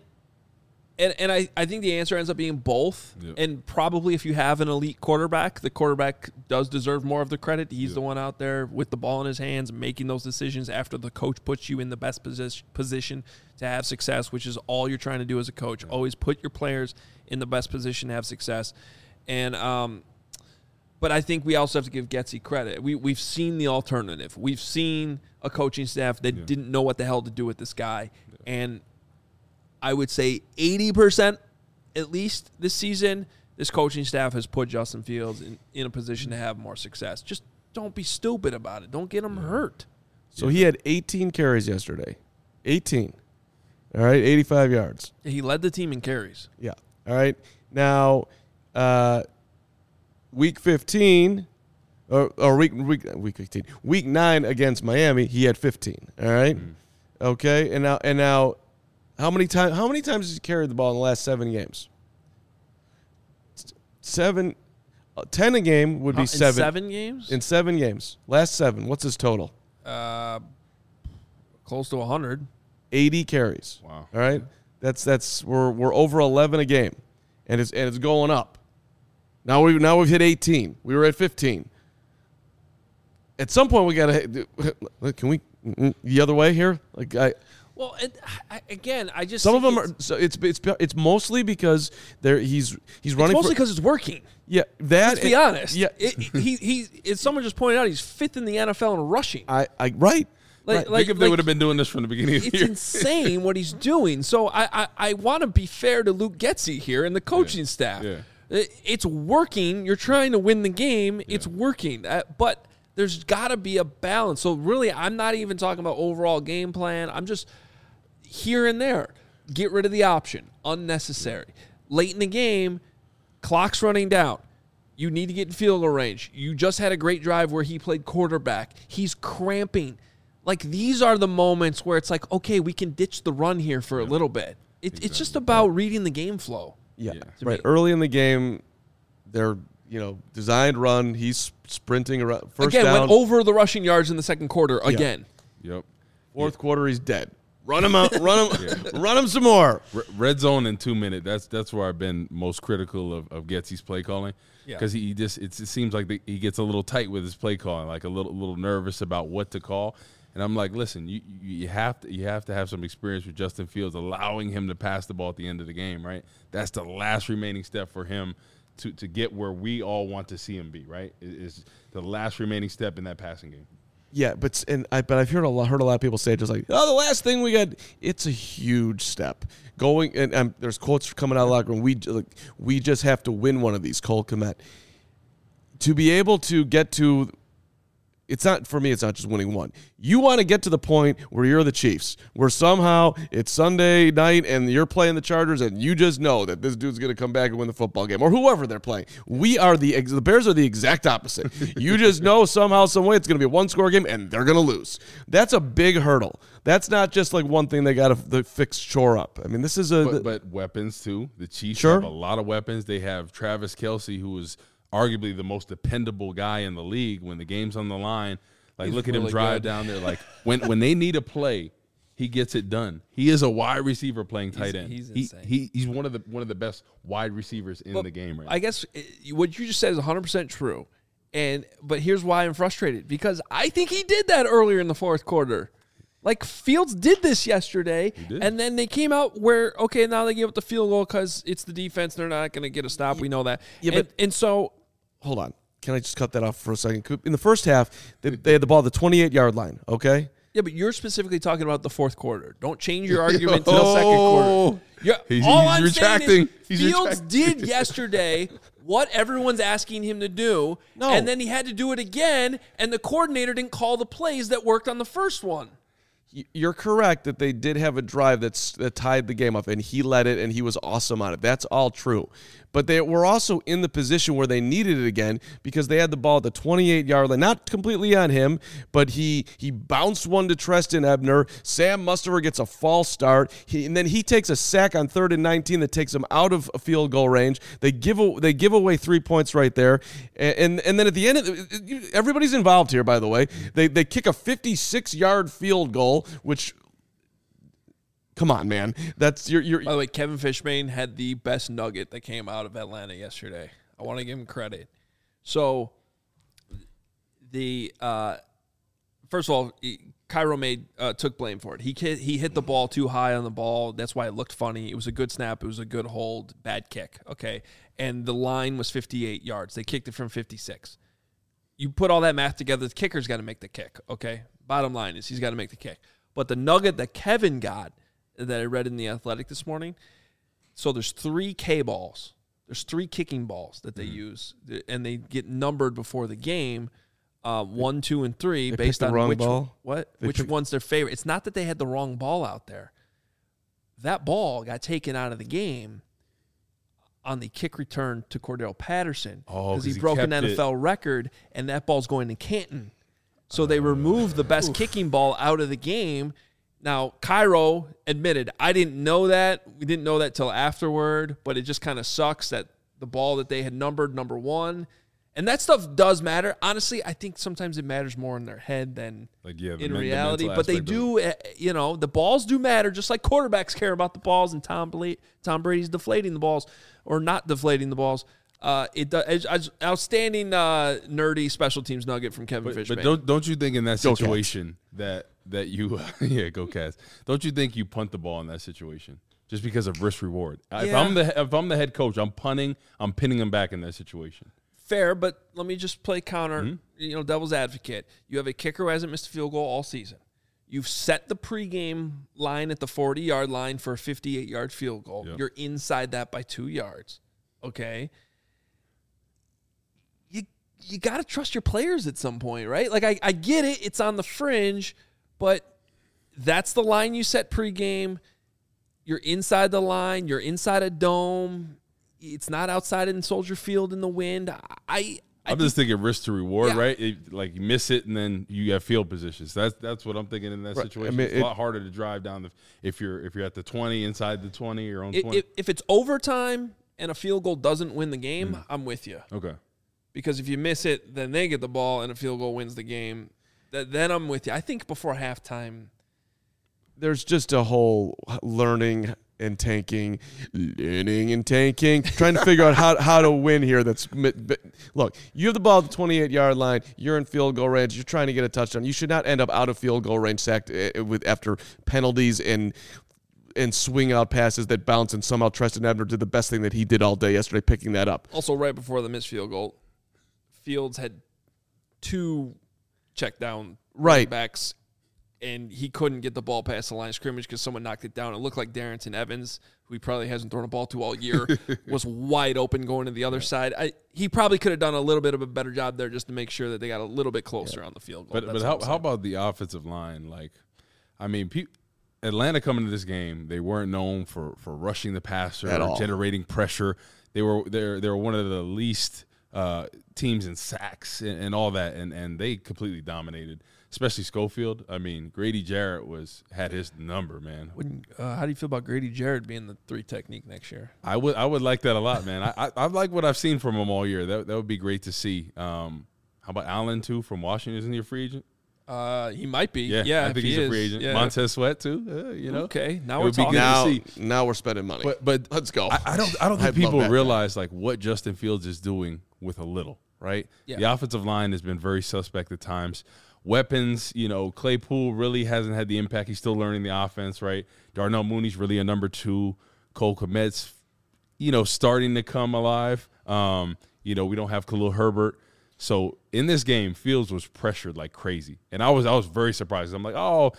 I think the answer ends up being both. Yep. And probably if you have an elite quarterback, the quarterback does deserve more of the credit. He's the one out there with the ball in his hands, making those decisions after the coach puts you in the best position to have success, which is all you're trying to do as a coach. Always put your players in the best position to have success. And but I think we also have to give Getsy credit. We've seen the alternative. We've seen a coaching staff that didn't know what the hell to do with this guy. And I would say 80% at least this season, this coaching staff has put Justin Fields in a position to have more success. Just don't be stupid about it. Don't get him hurt. So he had 18 carries yesterday. 18. All right, 85 yards. He led the team in carries. Yeah. All right. Now, week 15, or week 15, week 9 against Miami, he had 15. All right. Okay. And now, how many times has he carried the ball in the last 7 games? 10 a game would be 7. In 7 games? In 7 games. Last 7. What's his total? Close to 100. 80 carries. Wow. All right? We're over 11 a game. And it's going up. Now we've hit 18. We were at 15. At some point we got to can we the other way here? Well, I just some of them are. So it's mostly because he's running. It's mostly because it's working. Yeah, that. Let's be honest. Yeah, as someone just pointed out, he's 5th in the NFL in rushing. Right. Think if they would have been doing this from the beginning of the year. It's insane what he's doing. So I want to be fair to Luke Getsy here and the coaching staff. Yeah. It's working. You're trying to win the game. Yeah. It's working. But there's got to be a balance. So really, I'm not even talking about overall game plan. I'm just here and there. Get rid of the option. Unnecessary. Late in the game, clock's running down. You need to get in field goal range. You just had a great drive where he played quarterback. He's cramping. Like, these are the moments where it's like, okay, we can ditch the run here for a little bit. It's just about reading the game flow. Yeah, right. Early in the game, they're designed run. He's sprinting around. First down. Went over the rushing yards in the second quarter again. Yep. Fourth quarter, he's dead. Run him out. Run him some more. Red zone in 2 minutes. That's where I've been most critical of Getsy's play calling. Because it seems like he gets a little tight with his play calling, like a little nervous about what to call. And I'm like, listen, you have to have some experience with Justin Fields, allowing him to pass the ball at the end of the game, right? That's the last remaining step for him to get where we all want to see him be, right? Is the last remaining step in that passing game. Yeah, but I've heard a lot of people say just like, oh, the last thing we got. It's a huge step going, and there's quotes coming out of the locker room. We just have to win one of these. Cole Kmet, to be able to get to. It's not for me. It's not just winning one. You want to get to the point where you're the Chiefs, where somehow it's Sunday night and you're playing the Chargers, and you just know that this dude's going to come back and win the football game, or whoever they're playing. The Bears are the exact opposite. You just know somehow, some way, it's going to be a one-score game, and they're going to lose. That's a big hurdle. That's not just like one thing they got to fix, shore up. I mean, this is but weapons too. The Chiefs have a lot of weapons. They have Travis Kelce, who was arguably the most dependable guy in the league when the game's on the line. Like, look at him drive down there. Like, when they need a play, he gets it done. He is a wide receiver playing tight end. He's insane. He's one of the best wide receivers in the game right now. I guess what you just said is 100% true. But here's why I'm frustrated. Because I think he did that earlier in the fourth quarter. Like, Fields did this yesterday, and then they came out where, okay, now they give up the field goal because it's the defense. They're not going to get a stop. We know that. Yeah, and so – hold on. Can I just cut that off for a second? In the first half, they had the ball at the 28-yard line, okay? Yeah, but you're specifically talking about the fourth quarter. Don't change your argument to the second quarter. He's retracting. Fields did yesterday what everyone's asking him to do, and then he had to do it again, and the coordinator didn't call the plays that worked on the first one. You're correct that they did have a drive that tied the game up, and he led it, and he was awesome on it. That's all true. But they were also in the position where they needed it again because they had the ball at the 28-yard line. Not completely on him, but he bounced one to Treston Ebner. Sam Mustafer gets a false start. And then he takes a sack on 3rd and 19 that takes him out of field goal range. They give away 3 points right there. And then at the end, everybody's involved here, by the way. They kick a 56-yard field goal, which... Come on, man. That's your. By the way, Kevin Fishbain had the best nugget that came out of Atlanta yesterday. I want to give him credit. So, first of all, Cairo took blame for it. He hit the ball too high on the ball. That's why it looked funny. It was a good snap. It was a good hold. Bad kick. Okay, and the line was 58 yards. They kicked it from 56. You put all that math together. The kicker's got to make the kick. Okay, bottom line is he's got to make the kick. But the nugget that Kevin got, that I read in The Athletic this morning. So there's 3 K-balls. There's 3 kicking balls that they use, and they get numbered before the game, 1, 2, and 3, based on which one's their favorite. It's not that they had the wrong ball out there. That ball got taken out of the game on the kick return to Cordell Patterson because he broke an NFL record, and that ball's going to Canton. So they removed the best kicking ball out of the game. Now, Cairo admitted, I didn't know that. We didn't know that till afterward, but it just kind of sucks that the ball that they had numbered number 1 And that stuff does matter. Honestly, I think sometimes it matters more in their head than in reality. But they do, the balls do matter, just like quarterbacks care about the balls, and Tom Brady's deflating the balls or not deflating the balls. Outstanding nerdy special teams nugget from Kevin Fishman. But don't you think in that situation that you go Cats? Don't you think you punt the ball in that situation just because of risk reward? Yeah. If I'm the head coach, I'm punting. I'm pinning them back in that situation. Fair, but let me just play counter, devil's advocate. You have a kicker who hasn't missed a field goal all season. You've set the pregame line at the 40-yard line for a 58-yard field goal. Yep. You're inside that by 2 yards. Okay? You got to trust your players at some point, right? Like, I get it. It's on the fringe, but that's the line you set pregame. You're inside the line. You're inside a dome. It's not outside in Soldier Field in the wind. I'm just thinking risk to reward, right? You miss it and then you have field positions. That's what I'm thinking in that situation. I mean, it's a lot harder to drive down if you're at the 20, inside the 20, your own 20. If it's overtime and a field goal doesn't win the game, I'm with you. Okay. Because if you miss it, then they get the ball and a field goal wins the game. Then I'm with you. I think before halftime, there's just a whole learning and tanking, trying to figure out how to win here. Look, you have the ball at the 28-yard line. You're in field goal range. You're trying to get a touchdown. You should not end up out of field goal range sacked after penalties and swing out passes that bounce, and somehow Treston Ebner did the best thing that he did all day yesterday, picking that up. Also, right before the missed field goal, Fields had 2 check down backs, and he couldn't get the ball past the line of scrimmage because someone knocked it down. It looked like Darrington Evans, who he probably hasn't thrown a ball to all year, was wide open going to the other side. He probably could have done a little bit of a better job there just to make sure that they got a little bit closer on the field goal. But how about the offensive line? Atlanta coming to this game, they weren't known for rushing the passer or generating pressure. They were one of the least teams in sacks and all that, and they completely dominated. Especially Schofield. I mean, Grady Jarrett had his number, man. How do you feel about Grady Jarrett being the 3 technique next year? I would like that a lot, man. I like what I've seen from him all year. That would be great to see. How about Allen too from Washington? Isn't he a free agent? He might be. Yeah, I think he's a free agent. Yeah. Montez Sweat too. Okay, now we're talking. Now we're spending money. But let's go. I don't think people realize what Justin Fields is doing with a little. Right. Yeah. The offensive line has been very suspect at times. Weapons, Claypool really hasn't had the impact. He's still learning the offense, right? Darnell Mooney's really a number 2. Cole Kmet's, starting to come alive. We don't have Khalil Herbert. So in this game, Fields was pressured like crazy. And I was very surprised. I'm like,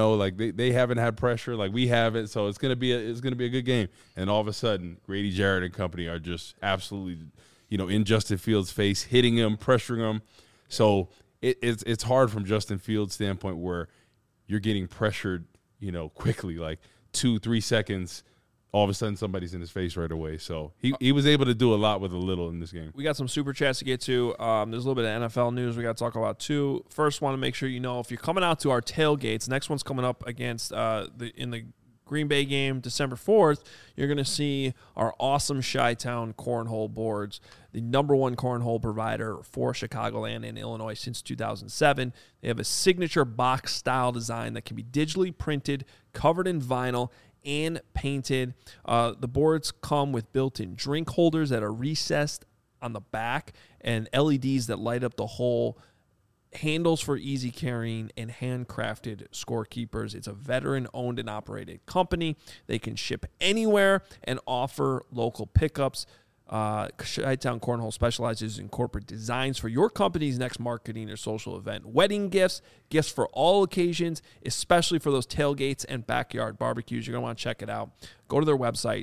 they haven't had pressure like we have it. So it's gonna be a good game. And all of a sudden, Grady Jarrett and company are just absolutely, in Justin Fields' face, hitting him, pressuring him. So it's hard from Justin Fields' standpoint where you're getting pressured, quickly, like 2-3 seconds. All of a sudden, somebody's in his face right away. So he was able to do a lot with a little in this game. We got some super chats to get to. There's a little bit of NFL news we got to talk about too. First, want to make sure if you're coming out to our tailgates. Next one's coming up against in the Green Bay game, December 4th. You're going to see our awesome Chi-Town cornhole boards, the #1 cornhole provider for Chicagoland and Illinois since 2007. They have a signature box-style design that can be digitally printed, covered in vinyl, and painted. The boards come with built-in drink holders that are recessed on the back and LEDs that light up the whole, handles for easy carrying, and handcrafted scorekeepers. It's a veteran-owned and operated company. They can ship anywhere and offer local pickups. Chi-Town Cornhole specializes in corporate designs for your company's next marketing or social event. Wedding gifts for all occasions, especially for those tailgates and backyard barbecues. You're going to want to check it out. Go to their website,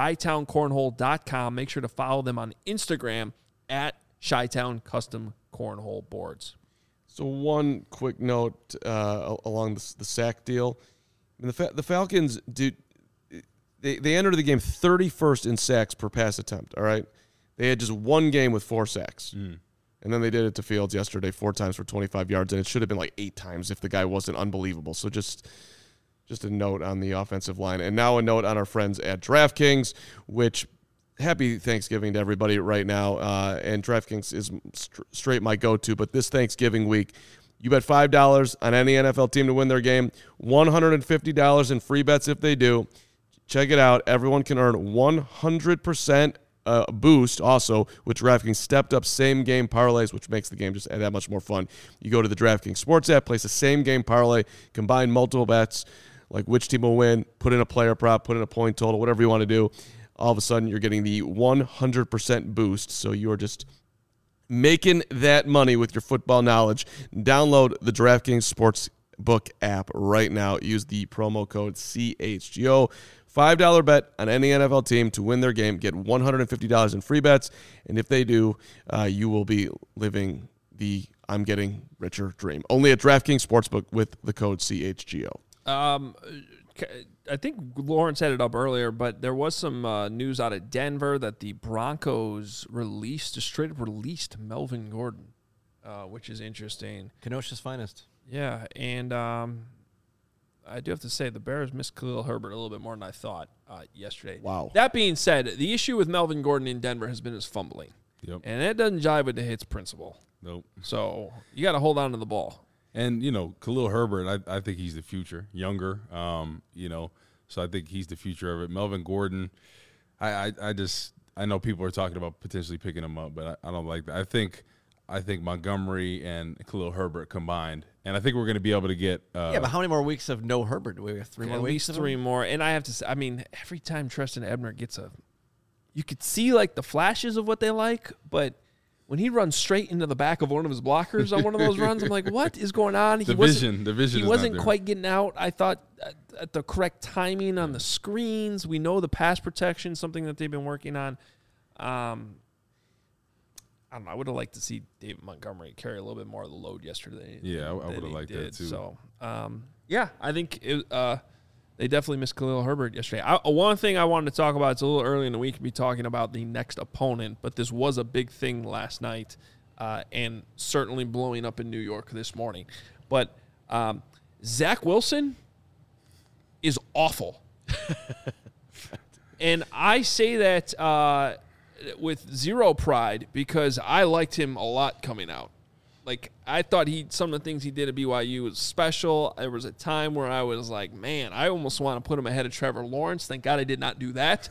ChiTownCornhole.com. Make sure to follow them on Instagram at Chi-Town Custom Cornhole Boards. So one quick note along the sack deal. I mean, the Falcons did. They entered the game 31st in sacks per pass attempt, all right? They had just one game with 4 sacks. And then they did it to Fields yesterday 4 times for 25 yards, and it should have been like 8 times if the guy wasn't unbelievable. So just a note on the offensive line. And now a note on our friends at DraftKings, which happy Thanksgiving to everybody right now. And DraftKings is straight my go-to. But this Thanksgiving week, you bet $5 on any NFL team to win their game, $150 in free bets if they do. Check it out. Everyone can earn 100% boost also with DraftKings stepped-up same-game parlays, which makes the game just that much more fun. You go to the DraftKings Sports app, place a same-game parlay, combine multiple bets, like which team will win, put in a player prop, put in a point total, whatever you want to do. All of a sudden, you're getting the 100% boost, so you're just making that money with your football knowledge. Download the DraftKings Sportsbook app right now. Use the promo code CHGO. $5 bet on any NFL team to win their game. Get $150 in free bets, and if they do, you will be living the I'm getting richer dream. Only at DraftKings Sportsbook with the code CHGO. I think Lawrence had it up earlier, but there was some news out of Denver that the Broncos straight up released Melvin Gordon, which is interesting. Kenosha's finest. Yeah, and I do have to say the Bears missed Khalil Herbert a little bit more than I thought yesterday. Wow. That being said, the issue with Melvin Gordon in Denver has been his fumbling. Yep. And that doesn't jive with the hits principle. Nope. So you got to hold on to the ball. And, Khalil Herbert, I think he's the future, younger, so I think he's the future of it. Melvin Gordon, I know people are talking about potentially picking him up, but I don't like that. I think Montgomery and Khalil Herbert combined, and I think we're going to be able to get but how many more weeks of no Herbert? Do we have 3 more at weeks? At least 3 more. And I have to say, every time Treston Ebner gets you could see, like, the flashes of what they like, but when he runs straight into the back of one of his blockers on one of those runs, I'm like, what is going on? The vision He wasn't quite getting out. I thought at the correct timing on the screens. We know the pass protection, something that they've been working on. I don't know. I would have liked to see David Montgomery carry a little bit more of the load yesterday. Yeah, I would have liked that too. So, I think they definitely missed Khalil Herbert yesterday. One thing I wanted to talk about, it's a little early in the week to be talking about the next opponent, but this was a big thing last night and certainly blowing up in New York this morning. But Zach Wilson is awful. And I say that with zero pride because I liked him a lot coming out. Like, I thought some of the things he did at BYU was special. There was a time where I was like, man, I almost want to put him ahead of Trevor Lawrence. Thank God I did not do that.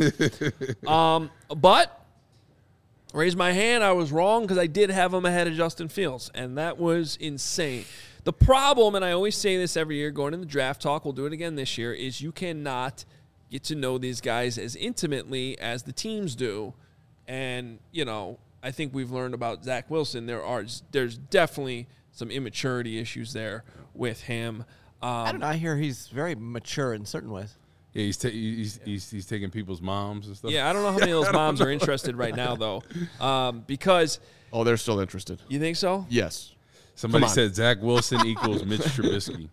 But raise my hand, I was wrong because I did have him ahead of Justin Fields, and that was insane. The problem, and I always say this every year going into draft talk, we'll do it again this year, is you cannot get to know these guys as intimately as the teams do. And, I think we've learned about Zach Wilson. There's definitely some immaturity issues there with him. I don't know. I hear he's very mature in certain ways. Yeah, he's taking people's moms and stuff. Yeah, I don't know how many of those moms are interested right now, though, because they're still interested. You think so? Yes. Somebody said Zach Wilson equals Mitch Trubisky.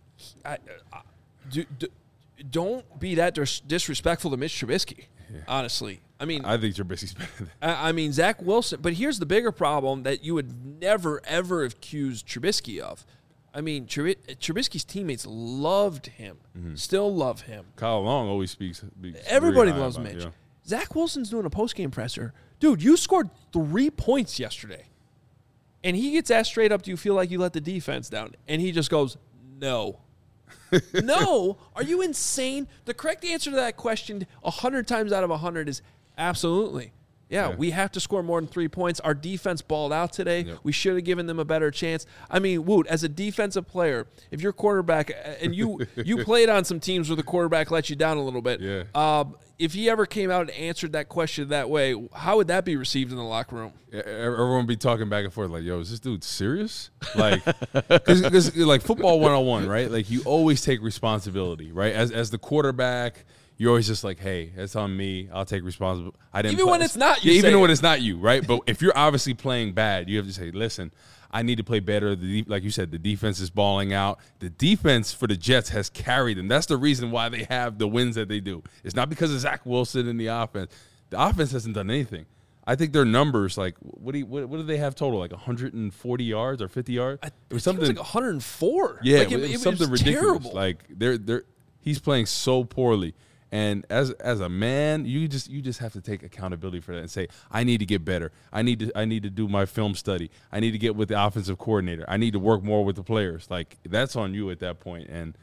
Don't be that disrespectful to Mitch Trubisky. Yeah. Honestly, I think Trubisky's better than that. Zach Wilson. But here's the bigger problem that you would never ever accuse Trubisky of. Trubisky's teammates loved him, still love him. Kyle Long always speaks everybody loves Mitch. Yeah. Zach Wilson's doing a postgame presser. Dude, you scored 3 points yesterday. And he gets asked straight up, do you feel like you let the defense down? And he just goes, no. No? Are you insane? The correct answer to that question 100 times out of 100 is absolutely. Yeah, we have to score more than 3 points. Our defense balled out today. Yep. We should have given them a better chance. Woot, as a defensive player, if you're quarterback, and you played on some teams where the quarterback let you down a little bit, if he ever came out and answered that question that way, how would that be received in the locker room? Everyone would be talking back and forth like, yo, is this dude serious? Like, because like football 101, right? Like, you always take responsibility, right? As the quarterback, you're always just like, hey, that's on me. I'll take responsibility. Even when it's not you. Yeah, even when it's not you, right? But if you're obviously playing bad, you have to say, listen, I need to play better. Like you said, the defense is balling out. The defense for the Jets has carried them. That's the reason why they have the wins that they do. It's not because of Zach Wilson and the offense. The offense hasn't done anything. I think their numbers, like, what do they have total? Like 140 yards or 50 yards? It was something like 104. Yeah, like it was something ridiculous. Terrible. Like he's playing so poorly. And as a man, you just have to take accountability for that and say, I need to get better. I need to do my film study. I need to get with the offensive coordinator. I need to work more with the players. Like, that's on you at that point. And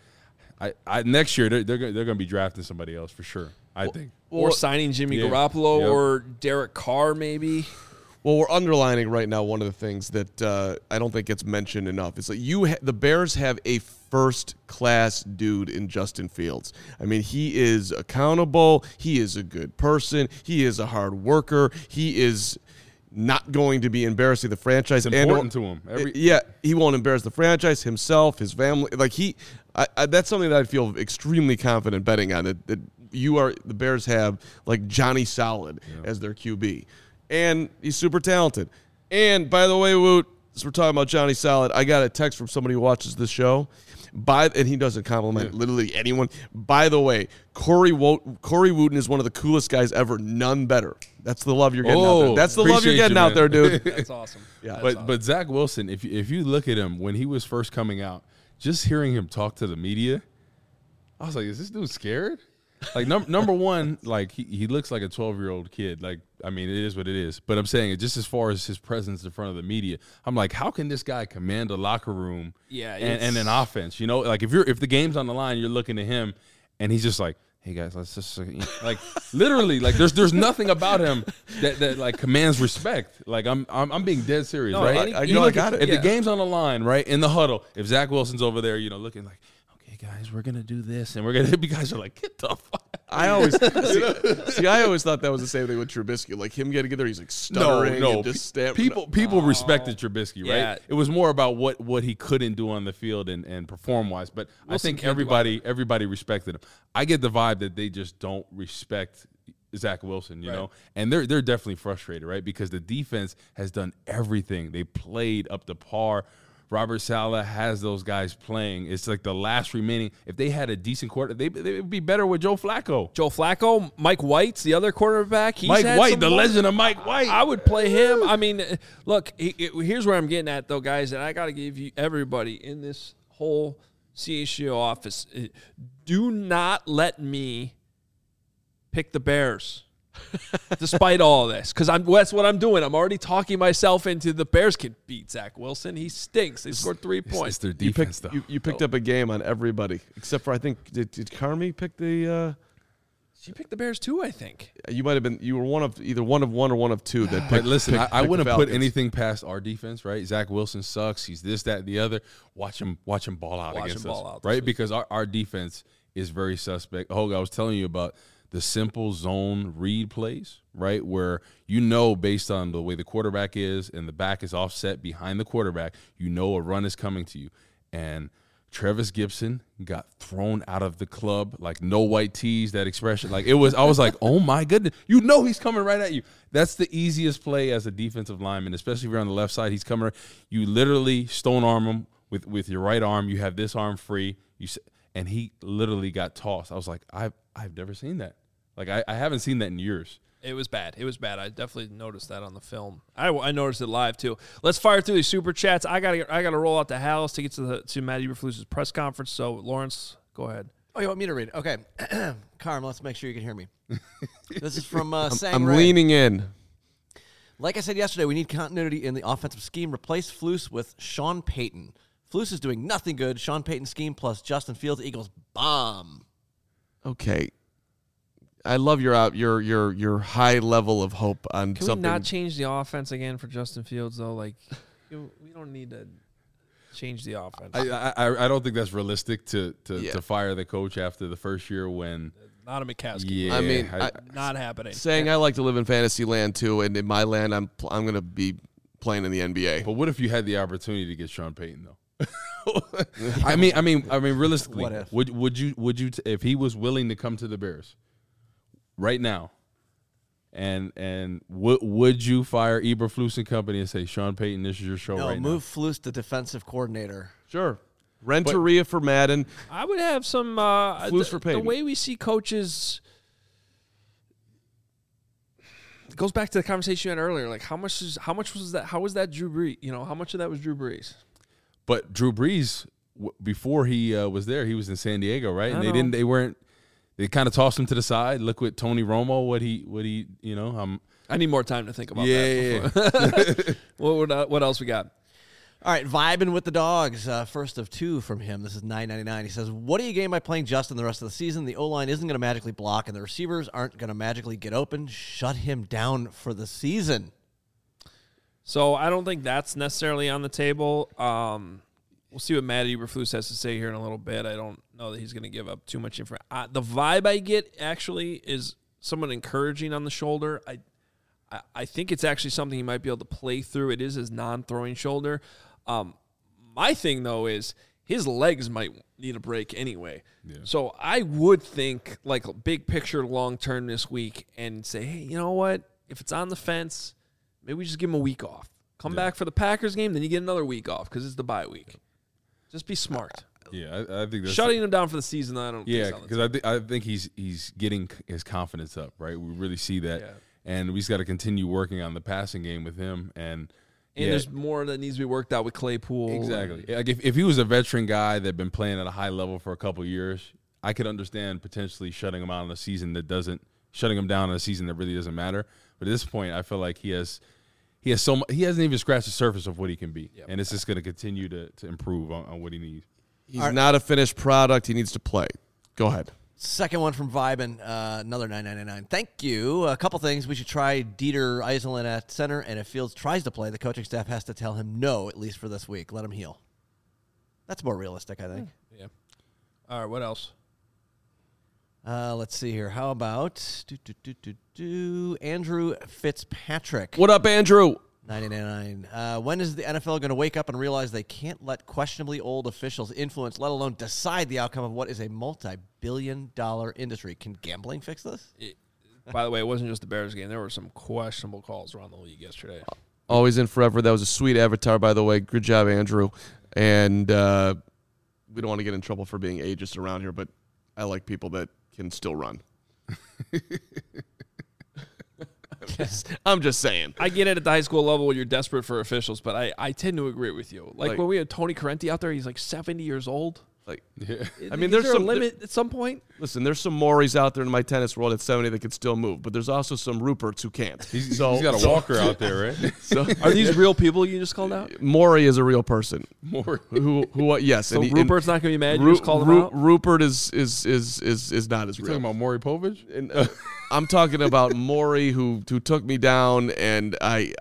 I next year they're going to be drafting somebody else for sure, I think. Or signing Jimmy Garoppolo or Derek Carr maybe. Well, we're underlining right now one of the things that I don't think gets mentioned enough. It's like the Bears have a first-class dude in Justin Fields. I mean, he is accountable. He is a good person. He is a hard worker. He is not going to be embarrassing the franchise. It's important to him. He won't embarrass the franchise, himself, his family. Like that's something that I feel extremely confident betting on. That the Bears have like Johnny Solid as their QB. And he's super talented. And by the way, Woot, as we're talking about Johnny Solid, I got a text from somebody who watches this show. And he doesn't compliment literally anyone. By the way, Corey Wooten is one of the coolest guys ever. None better. That's the love you're getting out there. That's the love you're getting out there, dude. That's awesome. Yeah. But Zach Wilson, if you look at him when he was first coming out, just hearing him talk to the media, I was like, is this dude scared? Like, number one, like, he looks like a 12-year-old kid. Like, I mean, it is what it is. But I'm saying, just as far as his presence in front of the media, I'm like, how can this guy command a locker room and an offense? You know, like, if the game's on the line, you're looking at him, and he's just like, hey, guys, let's just, like, literally, like, there's nothing about him that like, commands respect. Like, I'm being dead serious, right? I got it. If the game's on the line, right, in the huddle, if Zach Wilson's over there, you know, looking like, guys, we're gonna do this, and we're gonna. You guys are like, get the fuck. I always thought that was the same thing with Trubisky. Like him getting there, he's like stuttering and just people respected Trubisky, right? Yeah. It was more about what he couldn't do on the field and perform wise. But I think everybody respected him. I get the vibe that they just don't respect Zach Wilson, you know, and they're definitely frustrated, right? Because the defense has done everything. They played up to par. Robert Saleh has those guys playing. It's like the last remaining. If they had a decent quarter, they would be better with Joe Flacco. Mike White's the other quarterback. The legend of Mike White. I would play him. I mean, look, here's where I'm getting at, though, guys, and I got to give you everybody in this whole CHGO office, do not let me pick the Bears. Despite all of this, because that's what I'm doing. I'm already talking myself into the Bears can beat Zach Wilson. He stinks. They scored 3 points. It's their defense, you picked up a game on everybody except for I think did Carmi pick the? She picked the Bears too. I think you might have been. You were either one of one or one of two that picked. But listen, I wouldn't put anything past our defense, right? Zach Wilson sucks. He's this, that, and the other. Watch him ball out against us, right? Because our defense is very suspect. Hoga, I was telling you about the simple zone read plays, right, where you know based on the way the quarterback is and the back is offset behind the quarterback, you know a run is coming to you. And Travis Gibson got thrown out of the club, like no white tees, that expression. Like I was like, oh my goodness, you know he's coming right at you. That's the easiest play as a defensive lineman, especially if you're on the left side. He's coming, you literally stone arm him with your right arm. You have this arm free, and he literally got tossed. I was like, I've never seen that. Like, I haven't seen that in years. It was bad. I definitely noticed that on the film. I noticed it live, too. Let's fire through these super chats. I gotta roll out to Hallis to get to Matt Eberflus's press conference. So, Lawrence, go ahead. Oh, you want me to read it? Okay. Carm, let's make sure you can hear me. This is from Sang I'm Ray. leaning in. Like I said yesterday, we need continuity in the offensive scheme. Replace Flus with Sean Payton. Flus is doing nothing good. Sean Payton scheme plus Justin Fields equals bomb. Okay. I love your high level of hope on Can something. Can we not change the offense again for Justin Fields, though? Like, we don't need to change the offense. I don't think that's realistic to fire the coach after the first year when not a McCaskey. Yeah, I mean, not happening. Saying I like to live in fantasy land too, and in my land, I'm going to be playing in the NBA. But what if you had the opportunity to get Sean Payton though? I mean, realistically, would you if he was willing to come to the Bears right now, and would you fire Eberflus and company and say, Sean Payton, this is your show right now? No, move Flus to defensive coordinator. Sure. Renteria for Madden. I would have some Flus for Payton. The way we see coaches, it goes back to the conversation you had earlier. Like, how much was that? How was that Drew Brees? How much of that was Drew Brees? But Drew Brees, before he was there, he was in San Diego, right? And they weren't. they kind of tossed him to the side. Look with Tony Romo, what he I need more time to think about that. Yeah. What else we got? All right, vibing with the dogs. First of two from him. This is $9.99. He says, what do you gain by playing Justin the rest of the season? The O-line isn't going to magically block, and the receivers aren't going to magically get open. Shut him down for the season. So I don't think that's necessarily on the table. We'll see what Matt Eberflus has to say here in a little bit. I don't know that he's going to give up too much information. The vibe I get actually is someone encouraging on the shoulder. I think it's actually something he might be able to play through. It is his non-throwing shoulder. My thing, though, is his legs might need a break anyway. Yeah. So I would think, like, a big picture long-term this week and say, hey, you know what? If it's on the fence, maybe we just give him a week off. Come back for the Packers game, then you get another week off because it's the bye week. Just be smart. Yeah, I think that's shutting him down for the season. I don't. Yeah, because I think he's getting his confidence up. Right, we really see that, and we just got to continue working on the passing game with him. And there's more that needs to be worked out with Claypool. Exactly. Like if he was a veteran guy that had been playing at a high level for a couple of years, I could understand potentially shutting him out in a season that doesn't, shutting him down in a season that really doesn't matter. But at this point, I feel like he hasn't even scratched the surface of what he can be, and it's just going to continue to improve on what he needs. He's not a finished product. He needs to play. Go ahead. Second one from Vibin, another $9.99. Thank you. A couple things. We should try Dieter Iserlin at center, and if Fields tries to play, the coaching staff has to tell him no, at least for this week. Let him heal. That's more realistic, I think. Yeah. All right, what else? Let's see here. How about Andrew Fitzpatrick? What up, Andrew? $9.99. When is the NFL going to wake up and realize they can't let questionably old officials influence, let alone decide the outcome of what is a multi-billion-dollar industry? Can gambling fix this? By the way, it wasn't just the Bears game. There were some questionable calls around the league yesterday. Always in forever. That was a sweet avatar, by the way. Good job, Andrew. And we don't want to get in trouble for being ageist around here, but I like people that can still run. I'm just saying. I get it at the high school level when you're desperate for officials, but I tend to agree with you. Like when we had Tony Correnti out there, he's like 70 years old. Like, I mean, there's some limit at some point. Listen, there's some Maury's out there in my tennis world at 70 that can still move, but there's also some Ruperts who can't. He's got a walker out there, right? So are these real people you just called out? Maury is a real person. Maury, who yes. So Rupert's not going to be mad. You just called him out. Rupert is not as real. Talking about Maury Povich? And, I'm talking about Maury who took me down, and I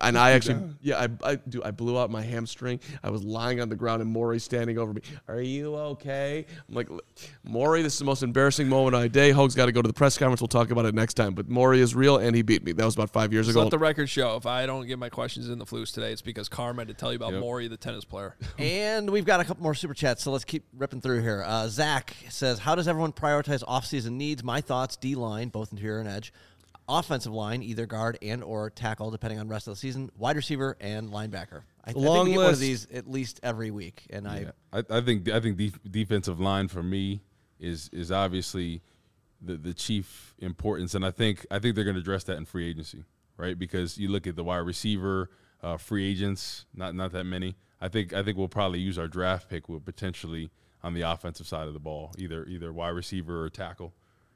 blew out my hamstring. I was lying on the ground, and Maury standing over me. Are you okay? I'm like, Maury, this is the most embarrassing moment of my day. Hoag's got to go to the press conference. We'll talk about it next time. But Maury is real, and he beat me. That was about 5 years ago. Let the record show. If I don't get my questions in the Flus today, it's because Carm had to tell you about Maury, the tennis player. And we've got a couple more super chats, so let's keep ripping through here. Zach says, how does everyone prioritize offseason needs? My thoughts, D-line, both interior and edge. Offensive line, either guard and or tackle, depending on rest of the season. Wide receiver and linebacker. I think we get one of these at least every week. And I think defensive line for me is obviously the chief importance, and I think they're going to address that in free agency, right? Because you look at the wide receiver free agents, not that many. I think we'll probably use our draft pick with potentially on the offensive side of the ball, either wide receiver or tackle.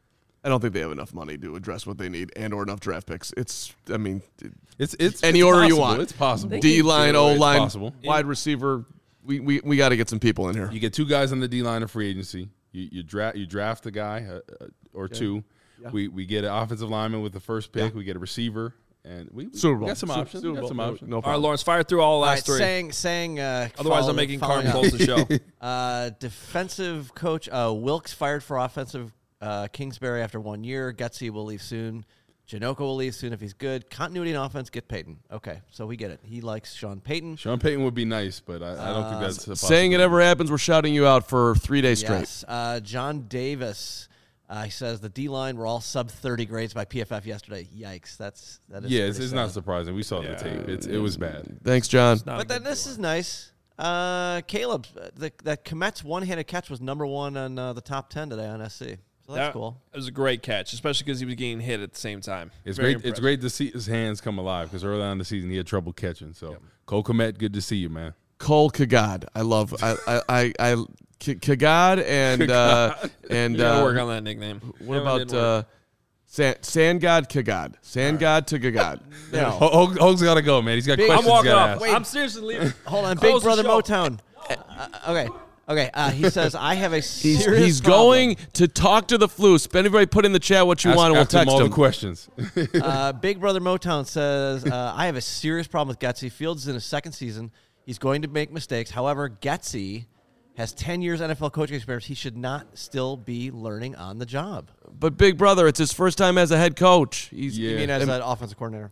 I don't think they have enough money to address what they need or enough draft picks. It's any it's order possible. you want. It's possible. D-line, O-line, possible. Wide receiver. We got to get some people in here. You get two guys on the D-line of free agency. You draft a guy or two. Yeah. We get an offensive lineman with the first pick. Yeah. We get a receiver. And we got some options. No problem. All right, Lawrence, fire through all the last three. Otherwise, I'm making Carm close the show. Defensive coach Wilkes fired for offensive Kingsbury after 1 year. Gutsy will leave soon. Janocko will leave soon if he's good. Continuity in offense, get Payton. Okay, so we get it. He likes Sean Payton. Sean Payton would be nice, but I don't think that's a possibility. Saying it ever happens, we're shouting you out for 3 days straight. Yes. John Davis. He says the D-line were all sub-30 grades by PFF yesterday. Yikes. That is it's not surprising. We saw the tape. It was bad. Thanks, John. But then this is nice. Caleb, that Komet's one-handed catch was number one on the top 10 today on SC. So that's cool. It was a great catch, especially because he was getting hit at the same time. It's great. It's great to see his hands come alive because early on in the season he had trouble catching. So Cole Kmet, good to see you, man. Cole Kagad. I love Kagad and work on that nickname. What about Sand God Kagad? Sand God to Kagad. No. Hoge's got to go, man. He's got questions. I'm walking he's gotta off. ask. I'm seriously leaving. Hold on, Close Big the Brother show. Motown. Okay. He says, I have a serious He's problem. going to talk to the Floos. Everybody put in the chat what you want, and we'll Ask him text all him. the questions. Big Brother Motown says, I have a serious problem with Getsy. Fields is in his second season. He's going to make mistakes. However, Getsy has 10 years NFL coaching experience. He should not still be learning on the job. But Big Brother, it's his first time as a head coach. He's Yeah. You mean as an offensive coordinator?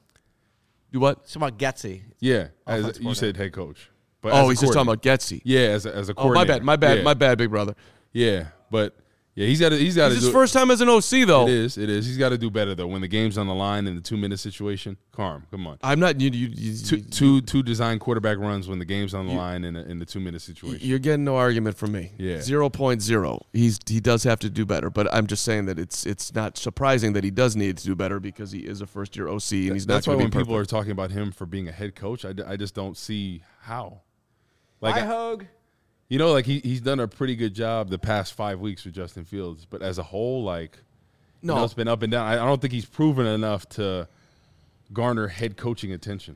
do what? It's about Getsy. Yeah, as Offensive you said, head coach. But Oh, as a he's just talking coordinator. about Getsy. Yeah, as a Oh, my coordinator. bad, my Yeah. bad, Big Brother. Yeah, but yeah, he's got to It's do his first time as an OC, though. It is. He's got to do better though. When the game's on the line in the 2-minute situation, Carm, come on. I'm not. You Two design quarterback runs when the game's on the line in the 2-minute situation. You're getting no argument from me. Yeah. 0.0. He does have to do better, but I'm just saying that it's not surprising that he does need to do better because he is a first year OC and he's That's not why going when to be people are perfect. talking about him for being a head coach, I just don't see how. Bye, Hogue. You know, like he's done a pretty good job the past 5 weeks with Justin Fields, but as a whole, like, No. you know, it's been up and down. I don't think he's proven enough to garner head coaching attention.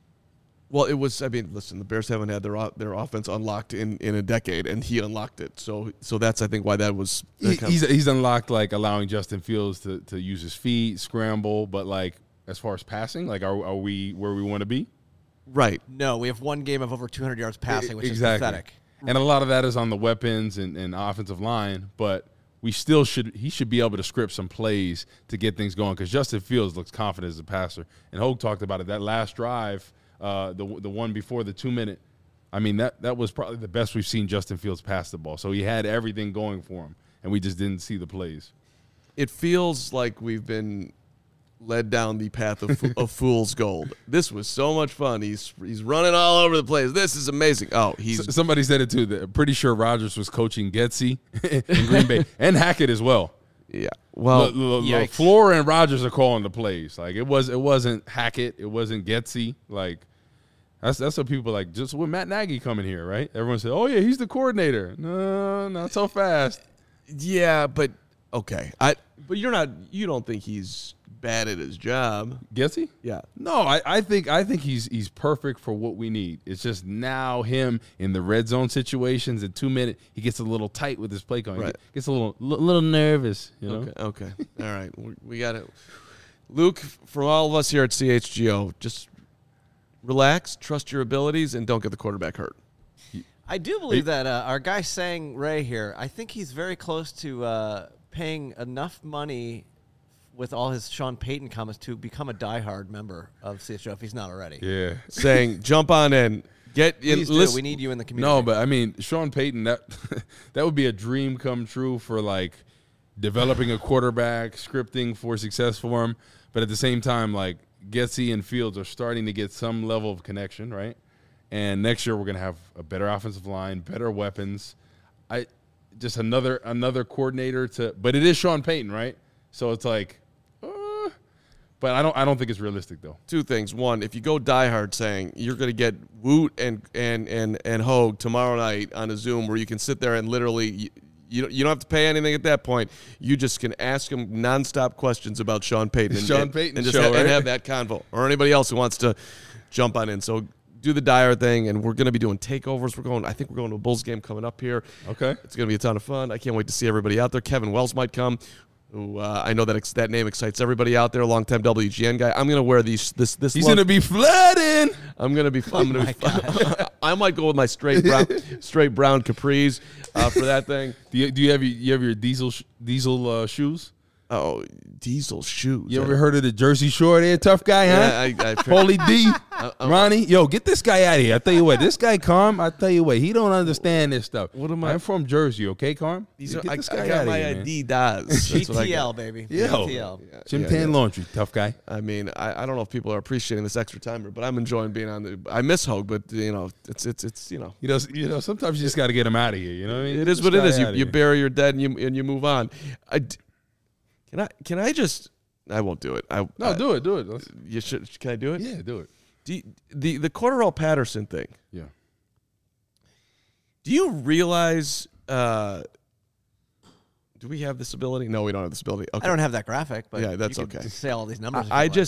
Well, it was. I mean, listen, the Bears haven't had their offense unlocked in a decade, and he unlocked it. So that's I think why that was. He's unlocked like allowing Justin Fields to use his feet, scramble, but like as far as passing, like are we where we want to be? right. No, we have one game of over 200 yards passing, which is pathetic. And a lot of that is on the weapons and offensive line, but he should be able to script some plays to get things going because Justin Fields looks confident as a passer. And Hogue talked about it. That last drive, the one before the 2-minute, I mean, that was probably the best we've seen Justin Fields pass the ball. So he had everything going for him, and we just didn't see the plays. It feels like we've been led down the path of fool's gold. This was so much fun. He's running all over the place. This is amazing. Oh, Somebody said it too. Pretty sure Rodgers was coaching Getsy in Green Bay and Hackett as well. yeah. Well, Floor and Rodgers are calling the plays. Like it wasn't Hackett. It wasn't Getsy. Like that's what people like. Just when Matt Nagy coming here, right? Everyone said, "Oh yeah, he's the coordinator." No, not so fast. yeah, but okay. But you don't think he's bad at his job? Getsy? Yeah. No, I think he's perfect for what we need. It's just now him in the red zone situations at 2-minute, he gets a little tight with his play calling. Right. He gets a little nervous, you know. Okay. All right. We got it. Luke, from all of us here at CHGO, just relax, trust your abilities, and don't get the quarterback hurt. I do believe that our guy Sang Ray here, I think he's very close to paying enough money with all his Sean Payton comments to become a diehard member of CHGO if he's not already. Yeah. Saying, jump on in. Get in. Please do. Listen. We need you in the community. No, but I mean, Sean Payton, that would be a dream come true for like developing a quarterback, scripting for success for him. But at the same time, like Getsy and Fields are starting to get some level of connection, right? And next year we're going to have a better offensive line, better weapons. Just another coordinator but it is Sean Payton, right? So it's like, but I don't think it's realistic though. Two things. One, if you go diehard saying you're going to get Woot and Hogue tomorrow night on a Zoom where you can sit there and literally you don't have to pay anything at that point. You just can ask him nonstop questions about Sean Payton and just have that convo, or anybody else who wants to jump on in. So do the Dyer thing, and we're going to be doing takeovers. I think we're going to a Bulls game coming up here. Okay, it's going to be a ton of fun. I can't wait to see everybody out there. Kevin Wells might come. Who I know that name excites everybody out there. Longtime WGN guy. I'm gonna wear this. He's gonna be flooding. I'm gonna be. I might go with my straight brown capris for that thing. Do you have your diesel shoes? Oh, diesel shoes. You ever heard of the Jersey Shore there, tough guy, huh? Yeah, Holy D. Ronnie, yo, get this guy out of here. I tell you what, this guy, Carm, I tell you what, he don't understand this stuff. What am I? I'm from Jersey, okay, Carm? Get this I guy got out my of here, man. ID does. GTL, baby. Yo. GTL. Jim Tan Laundry, tough guy. I mean, I don't know if people are appreciating this extra time, but I'm enjoying being on the. I miss Hogue, but it's you know. Sometimes you just got to get him out of here. You know what I mean? It is what it is. You bury your dead and you move on. Can I just? I won't do it. Do it. Do it. You should. Can I do it? Yeah, do it. The Cordarrelle Patterson thing. Yeah. Do you realize Do we have this ability? No, we don't have this ability. Okay. I don't have that graphic, but yeah, that's you could okay. just say all these numbers.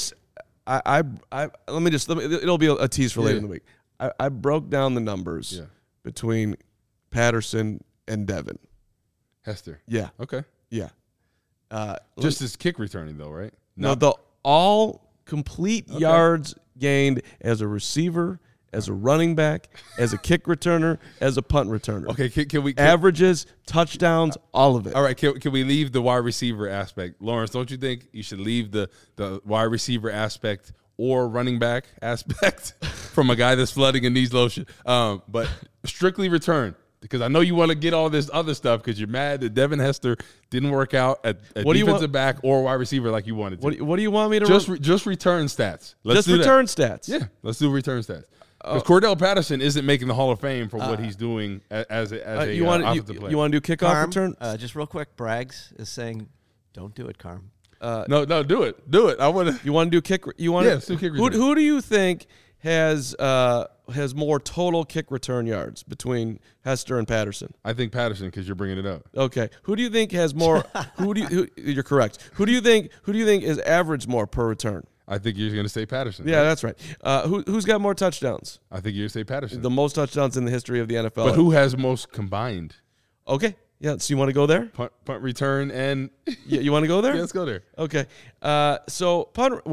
It'll be a tease for later in the week. I broke down the numbers between Patterson and Devin Hester. Yeah. Okay. Yeah. Just as kick returning though, right? No, the all complete yards gained as a receiver, as a running back, as a kick returner, as a punt returner. Okay, can we averages, touchdowns, all of it. All right, can we leave the wide receiver aspect? Lawrence, don't you think you should leave the wide receiver aspect or running back aspect from a guy that's flooding and needs lotion? But strictly return, because I know you want to get all this other stuff because you're mad that Devin Hester didn't work out at defensive back or wide receiver like you wanted to. What do you want me to just return stats? Let's do return stats. Yeah, let's do return stats. Because Cordell Patterson isn't making the Hall of Fame for what he's doing as a offensive player. You want to do kickoff return? Just real quick, Braggs is saying, "Don't do it, Carm." No, do it. Do it. I want to. You want to do kick? You want? Yes, do kick return. Who do you think has more total kick return yards between Hester and Patterson? I think Patterson, because you're bringing it up. Okay. Who do you think has more? You're correct. Who do you think is average more per return? I think you're going to say Patterson. Yeah, that's right. Who's got more touchdowns? I think you're going to say Patterson. The most touchdowns in the history of the NFL. But who has most combined? Okay. Yeah, so you want to go there? Punt return and you want to go there? Yeah, let's go there. Okay. So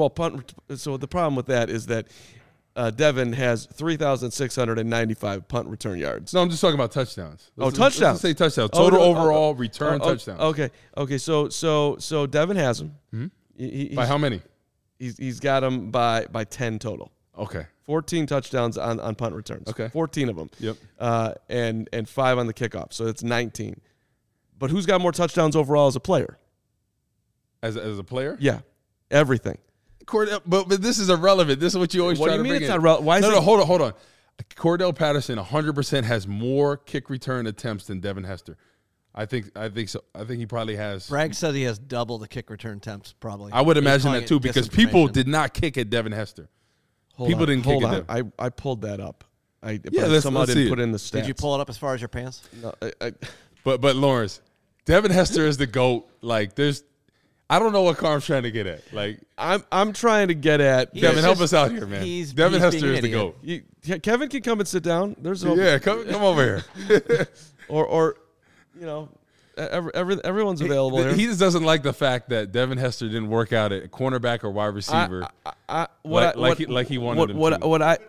the problem with that is that Devin has 3,695 punt return yards. No, I'm just talking about touchdowns. Touchdowns. Let's say touchdowns. Total overall return touchdowns. Okay. So Devin has them. Mm-hmm. By how many? He's got them by 10 total. Okay. 14 touchdowns on punt returns. Okay. 14 of them. Yep. And 5 on the kickoff. So that's 19. But who's got more touchdowns overall as a player? As a player? Yeah. Everything. But this is irrelevant. This is what you always try to bring in. What do you mean it's not relevant? Why is No, hold on. Cordell Patterson 100% has more kick return attempts than Devin Hester. I think so. I think he probably has. Bragg said he has double the kick return attempts, probably. I would imagine that too, because people did not kick at Devin Hester. People didn't kick at Devin. I pulled that up. Somehow didn't put in the stats. Did you pull it up as far as your pants? No. But Lawrence, Devin Hester is the GOAT. Like I don't know what Carm's trying to get at. Like I'm trying to get at. Devin, help us out here, man. Devin Hester is the GOAT. Kevin can come and sit down. Come over here. or you know, everyone's available there. He just doesn't like the fact that Devin Hester didn't work out at cornerback or wide receiver like he wanted him to.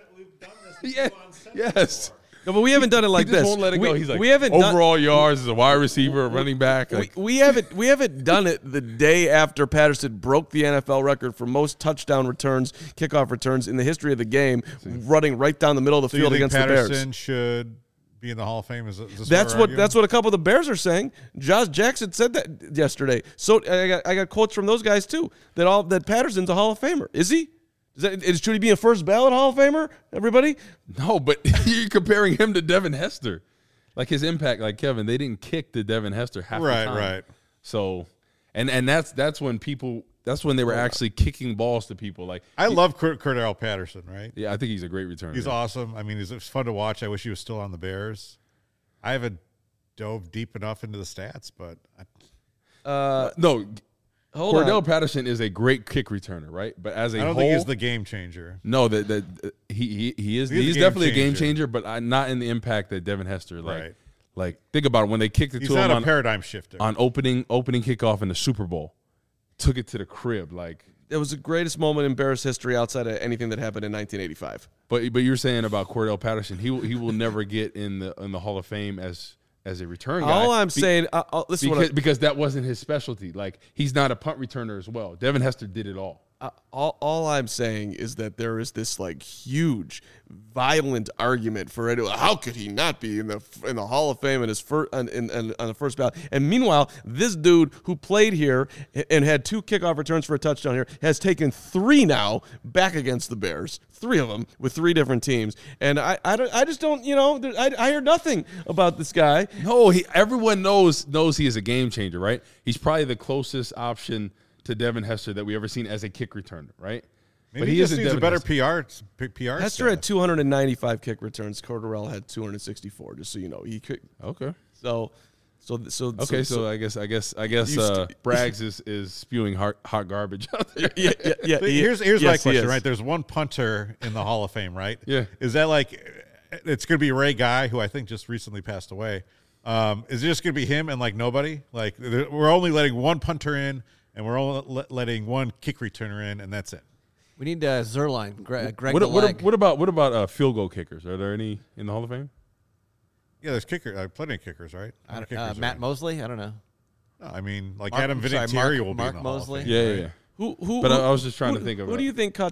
Yes. No, but we haven't done it like he just this. Won't let it go. He's like, we haven't overall yards as a wide receiver, a running back. Like, we haven't done it the day after Patterson broke the NFL record for most touchdown returns, kickoff returns in the history of the game, running right down the middle of the field against the Bears. Patterson should be in the Hall of Fame. That's what a couple of the Bears are saying. Josh Jackson said that yesterday. So I got quotes from those guys too that Patterson's a Hall of Famer. Is he? Should he be a first ballot Hall of Famer? Everybody? No, but you're comparing him to Devin Hester. Like his impact, like Kevin, they didn't kick to Devin Hester half the time. Right. So, and that's when they were actually kicking balls to people. Like I love Cordell Patterson, right? Yeah, I think he's a great returner. He's awesome. I mean, it's fun to watch. I wish he was still on the Bears. I haven't dove deep enough into the stats, but no. Cordell Patterson is a great kick returner, right? But as I don't think he's the game changer. No, that he is. He's definitely a game changer, but not in the impact that Devin Hester. Like think about it when they kicked it to him. He's not a paradigm shifter on opening kickoff in the Super Bowl. Took it to the crib. Like it was the greatest moment in Bears history outside of anything that happened in 1985. But you're saying about Cordell Patterson, he will never get in the Hall of Fame as a return guy. All I'm saying, because that wasn't his specialty. Like he's not a punt returner as well. Devin Hester did it all. All I'm saying is that there is this like huge, violent argument for it. How could he not be in the Hall of Fame in his first on the first ballot? And meanwhile, this dude who played here and had 2 kickoff returns for a touchdown here has taken 3 now back against the Bears. 3 of them with 3 different teams. And I just don't, I hear nothing about this guy. No, everyone knows he is a game changer, right? He's probably the closest option to Devin Hester that we ever seen as a kick returner, right? Maybe but he just isn't needs a better Hester. PR. Hester had 295 kick returns. Cordarrelle had 264. Just so you know, he could. Okay. So I guess Braggs is spewing hot garbage out there. Yeah. Here's my question, right? There's one punter in the Hall of Fame, right? Yeah. Is that it's going to be Ray Guy, who I think just recently passed away? Is it just going to be him and nobody? We're only letting one punter in, and we're only letting one kick returner in, and that's it. We need Zerline, Greg What about field goal kickers? Are there any in the Hall of Fame? Yeah, there's plenty of kickers, right? Matt Mosley? I don't know. No, Adam Vinatieri will be in the Mosley. Hall of Fame. Yeah. But I was just trying to think of who do you think caught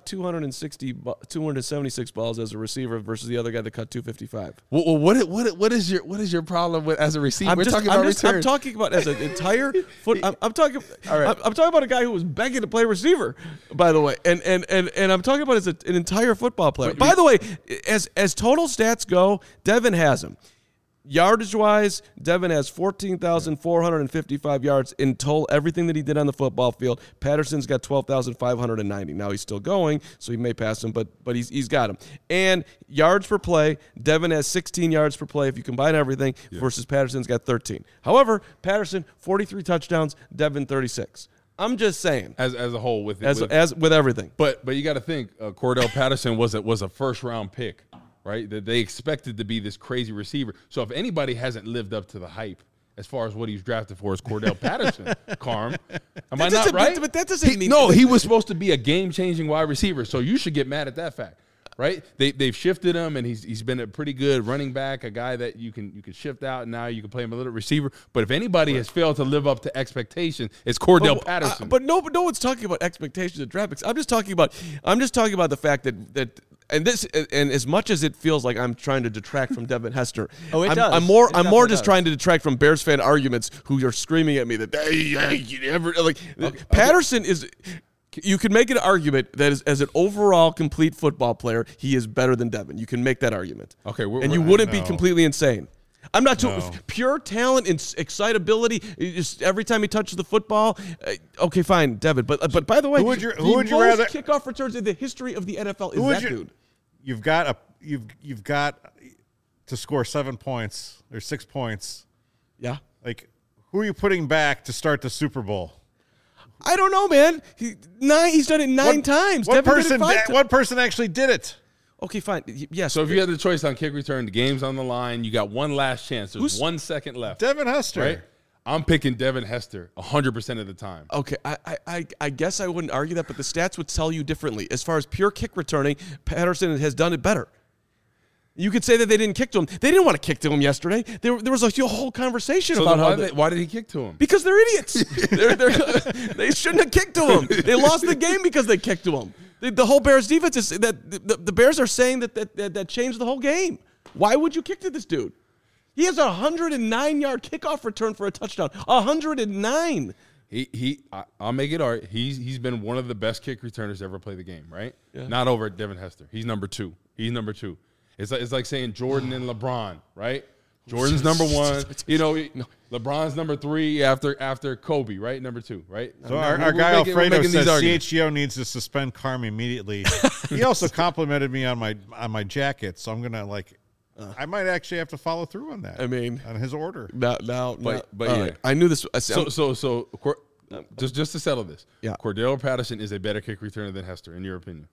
276 balls as a receiver versus the other guy that caught 255? Well, what is your problem with as a receiver? I'm talking about as an entire foot. I'm talking. All right. I'm talking about a guy who was begging to play receiver, by the way, and I'm talking about as an entire football player. By the way, as total stats go, Devin has him. Yardage-wise, Devin has 14,455 yards in total, everything that he did on the football field. Patterson's got 12,590. Now he's still going, so he may pass him, but he's got him. And yards per play, Devin has 16 yards per play if you combine everything, versus Patterson's got 13. However, Patterson, 43 touchdowns, Devin, 36. I'm just saying. As a whole with everything. But you got to think, Cordell Patterson was a first-round pick. Right, that they expected to be this crazy receiver. So if anybody hasn't lived up to the hype as far as what he's drafted for is Cordell Patterson, Carm. Am I not right? But that doesn't mean he was supposed to be a game-changing wide receiver. So you should get mad at that fact, right? They've shifted him, and he's been a pretty good running back, a guy that you can shift out, and now you can play him a little receiver. But if anybody has failed to live up to expectation, it's Cordell Patterson. But no one's talking about expectations of draft picks. I'm just talking about the fact that. And as much as it feels like I'm trying to detract from Devin Hester, I'm more just trying to detract from Bears fan arguments who are screaming at me that Patterson is. You can make an argument that as an overall complete football player, he is better than Devin. You can make that argument. Okay, you wouldn't be completely insane. I'm not pure talent and excitability. Just every time he touches the football, okay, fine, Devin. But by the way, who would you rather kickoff returns in the history of the NFL is that dude? You've got to score 7 points or 6 points. Yeah. Who are you putting back to start the Super Bowl? I don't know, man. He's done it nine times. What person actually did it? Okay, fine. Yes. So if you had the choice on kick return, the game's on the line, you got one last chance. There's 1 second left. Devin Hester. Right? I'm picking Devin Hester 100% of the time. Okay, I guess I wouldn't argue that, but the stats would tell you differently. As far as pure kick returning, Patterson has done it better. You could say that they didn't kick to him. They didn't want to kick to him yesterday. There was a whole conversation about why did he kick to him? Because they're idiots. They shouldn't have kicked to him. They lost the game because they kicked to him. The whole Bears defense is that the Bears are saying that changed the whole game. Why would you kick to this dude? He has a 109-yard kickoff return for a touchdown. 109. I'll make it art. He's been one of the best kick returners to ever play the game, right? Yeah. Not over Devin Hester. He's number 2. It's like saying Jordan and LeBron, right? Jordan's number 1. LeBron's number 3 after Kobe, right? Number 2, right? So our guy Alfredo says CHGO needs to suspend Carm immediately. He also complimented me on my jacket, so I'm gonna I might actually have to follow through on that. I mean, on his order. But yeah. Right. I knew this. So just to settle this, yeah. Cordell Patterson is a better kick returner than Hester, in your opinion.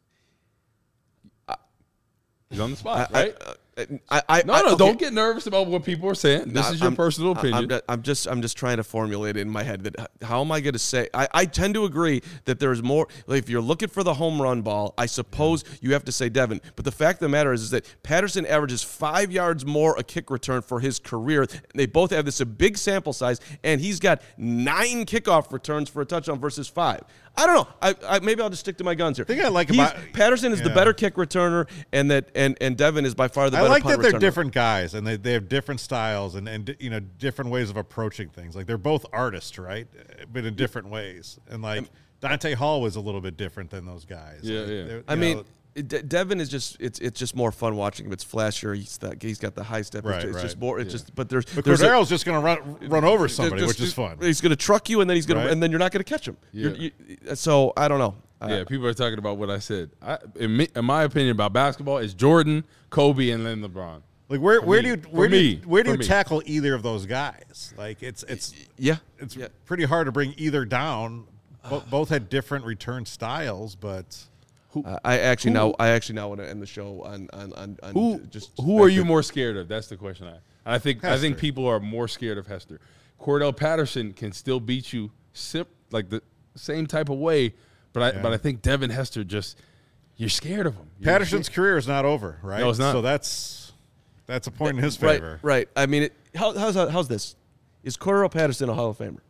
He's on the spot, right? Don't get nervous about what people are saying. This is your personal opinion. I'm just trying to formulate it in my head that how am I going to say? I tend to agree that there's more. If you're looking for the home run ball, I suppose you have to say Devin. But the fact of the matter is that Patterson averages 5 yards more a kick return for his career. They both have this a big sample size, and he's got 9 kickoff returns for a touchdown versus 5. I don't know. Maybe I'll just stick to my guns here. The thing I like about Patterson is the better kick returner, and Devin is by far the better. I like punt that they're returner. different guys, and they have different styles and different ways of approaching things. They're both artists, right? But in different ways. And Dante Hall was a little bit different than those guys. Yeah. Devin is just it's just more fun watching him. It's flashier. He's got the high step. It's just more. It's just. But there's. But Cordarrelle's just going to run over somebody, which is fun. He's going to truck you, and then and then you're not going to catch him. Yeah. So I don't know. Yeah, people are talking about what I said. In my opinion about basketball, it's Jordan, Kobe, and then LeBron. Like where do you tackle either of those guys? Like it's pretty hard to bring either down. Both had different return styles, but I actually now want to end the show on who are you more scared of? That's the question. I think people are more scared of Hester. Cordell Patterson can still beat you like the same type of way, but I think Devin Hester you're scared of him. Patterson's career is not over, right? No, it's not. So that's a point in his favor. Right. I mean, how's this? Is Cordell Patterson a Hall of Famer?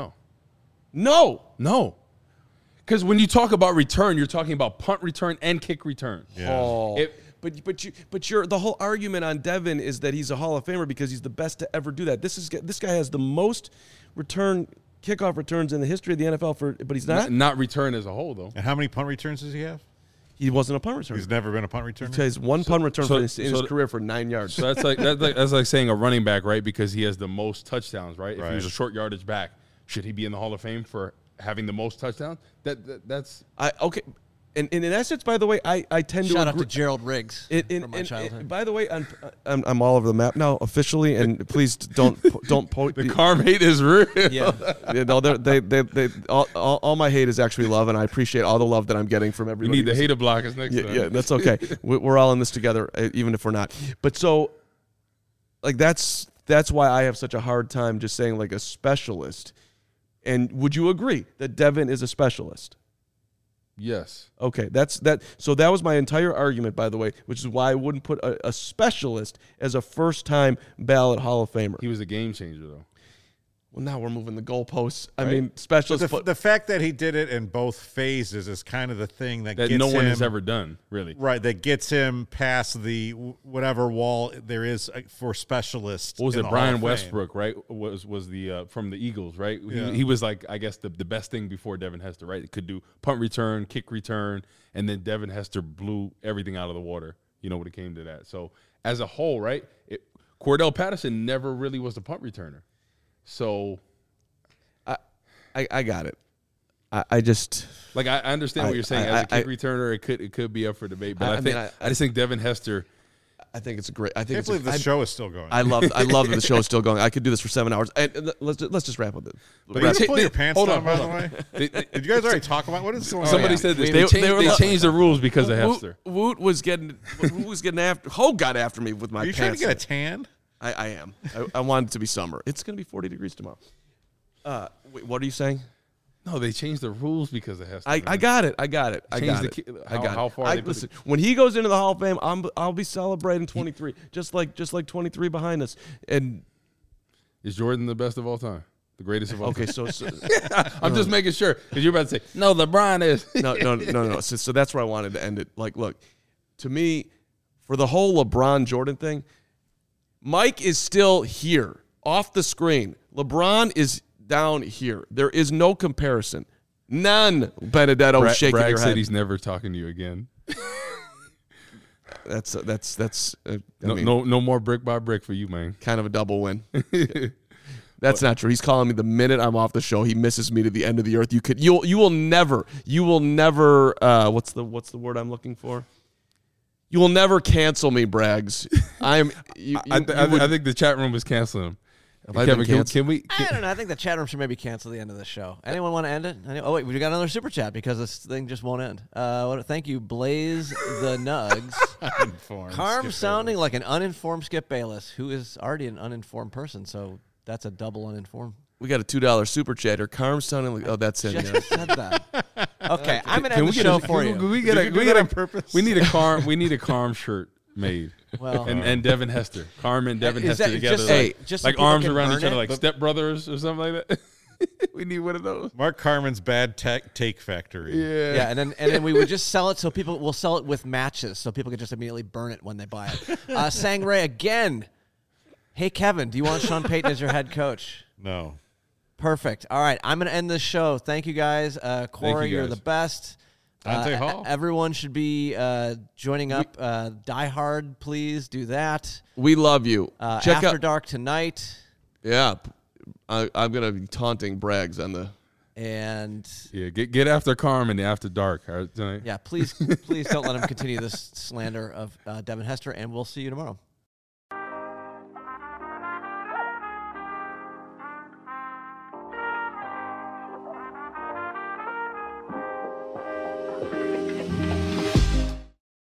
No. Because when you talk about return, you're talking about punt return and kick return. Yeah. But the whole argument on Devin is that he's a Hall of Famer because he's the best to ever do that. This guy has the most kickoff returns in the history of the NFL but he's not. Not return as a whole though. And how many punt returns does he have? He wasn't a punt returner. He's never been a punt returner. He has one punt return in his career for 9 yards. So that's like saying a running back, right? Because he has the most touchdowns, right? If he was a short yardage back, should he be in the Hall of Fame for having the most touchdowns? That's okay. And in essence, by the way, I tend to shout out to Gerald Riggs from my childhood. By the way, I'm all over the map now officially, and please don't point. The karma hate is real. Yeah, no, they all my hate is actually love, and I appreciate all the love that I'm getting from everybody. We need the hater blockers next time. Yeah, that's okay. We're all in this together, even if we're not. But so, like that's why I have such a hard time just saying like a specialist. And would you agree that Devin is a specialist? Yes. Okay, so that was my entire argument, by the way, which is why I wouldn't put a specialist as a first-time ballot Hall of Famer. He was a game changer, though. Well, now we're moving the goalposts. Right. I mean, specialist. The fact that he did it in both phases is kind of the thing that gets no one him, has ever done, really. Right, that gets him past the whatever wall there is for specialists. What was it? Brian Westbrook, right? Was the from the Eagles, right? Yeah. He was like, I guess the best thing before Devin Hester, right? It could do punt return, kick return, and then Devin Hester blew everything out of the water. When it came to that. So as a whole, right? Cordell Patterson never really was a punt returner. So, I got it. I just like I understand what you're saying. As a kick returner, it could be up for debate, but I just think Devin Hester. I think it's a great. I can't believe the show is still going. I love that the show is still going. I could do this for 7 hours. And let's just wrap with it. But you pull your pants down, by the way. Did you guys already talk about what is going on? Somebody said this. They changed the rules because of Hester. Woot was getting after. Hogue got after me with my pants. Are you trying to get a tan? I am. I want it to be summer. It's going to be 40 degrees tomorrow. Wait, what are you saying? No, they changed the rules because of Hester. I got it. I got it. How far? Listen, when he goes into the Hall of Fame, I'll be celebrating 23, just like 23 behind us. And is Jordan the best of all time? The greatest of all time? Okay, so I'm just making sure because you're about to say no. LeBron is no. So that's where I wanted to end it. Like, look, to me, for the whole LeBron Jordan thing, Mike is still here off the screen. LeBron is down here. There is no comparison. None. Benedetto shaking Bragg your head. said he's never talking to you again. That's no more brick by brick for you, man. Kind of a double win. That's not true. He's calling me the minute I'm off the show. He misses me to the end of the earth. You will never. What's the word I'm looking for? You will never cancel me, Braggs. I think the chat room is canceling him. Kevin, can we? I don't know. I think the chat room should maybe cancel the end of the show. Anyone want to end it? Oh wait, we got another super chat because this thing just won't end. Thank you, Blaze the Nugs. Carm sounding like an uninformed Skip Bayless, who is already an uninformed person. So that's a double uninformed. We got a $2 super chatter. Carm sounding like that's it. Just said that. Okay, I'm gonna end the show for you. We get on purpose. We need a Carm shirt made. Well, and Devin Hester, Carm and Devin Hester together, just like arms around each other, like Step Brothers or something like that. We need one of those. Mark Carmen's Bad Take Factory. Yeah, and then we would just sell it so people will sell it with matches, so people can just immediately burn it when they buy it. Sangray again. Hey Kevin, do you want Sean Payton as your head coach? No. Perfect. All right, I'm gonna end this show. Thank you guys, Corey. You're the best. Dante Hall. Everyone should be joining up. Die Hard, please do that. We love you. Check After Dark tonight. Yeah, I'm gonna be taunting Braggs on the And get after Carmen after dark tonight. Yeah, please don't let him continue this slander of Devin Hester, and we'll see you tomorrow.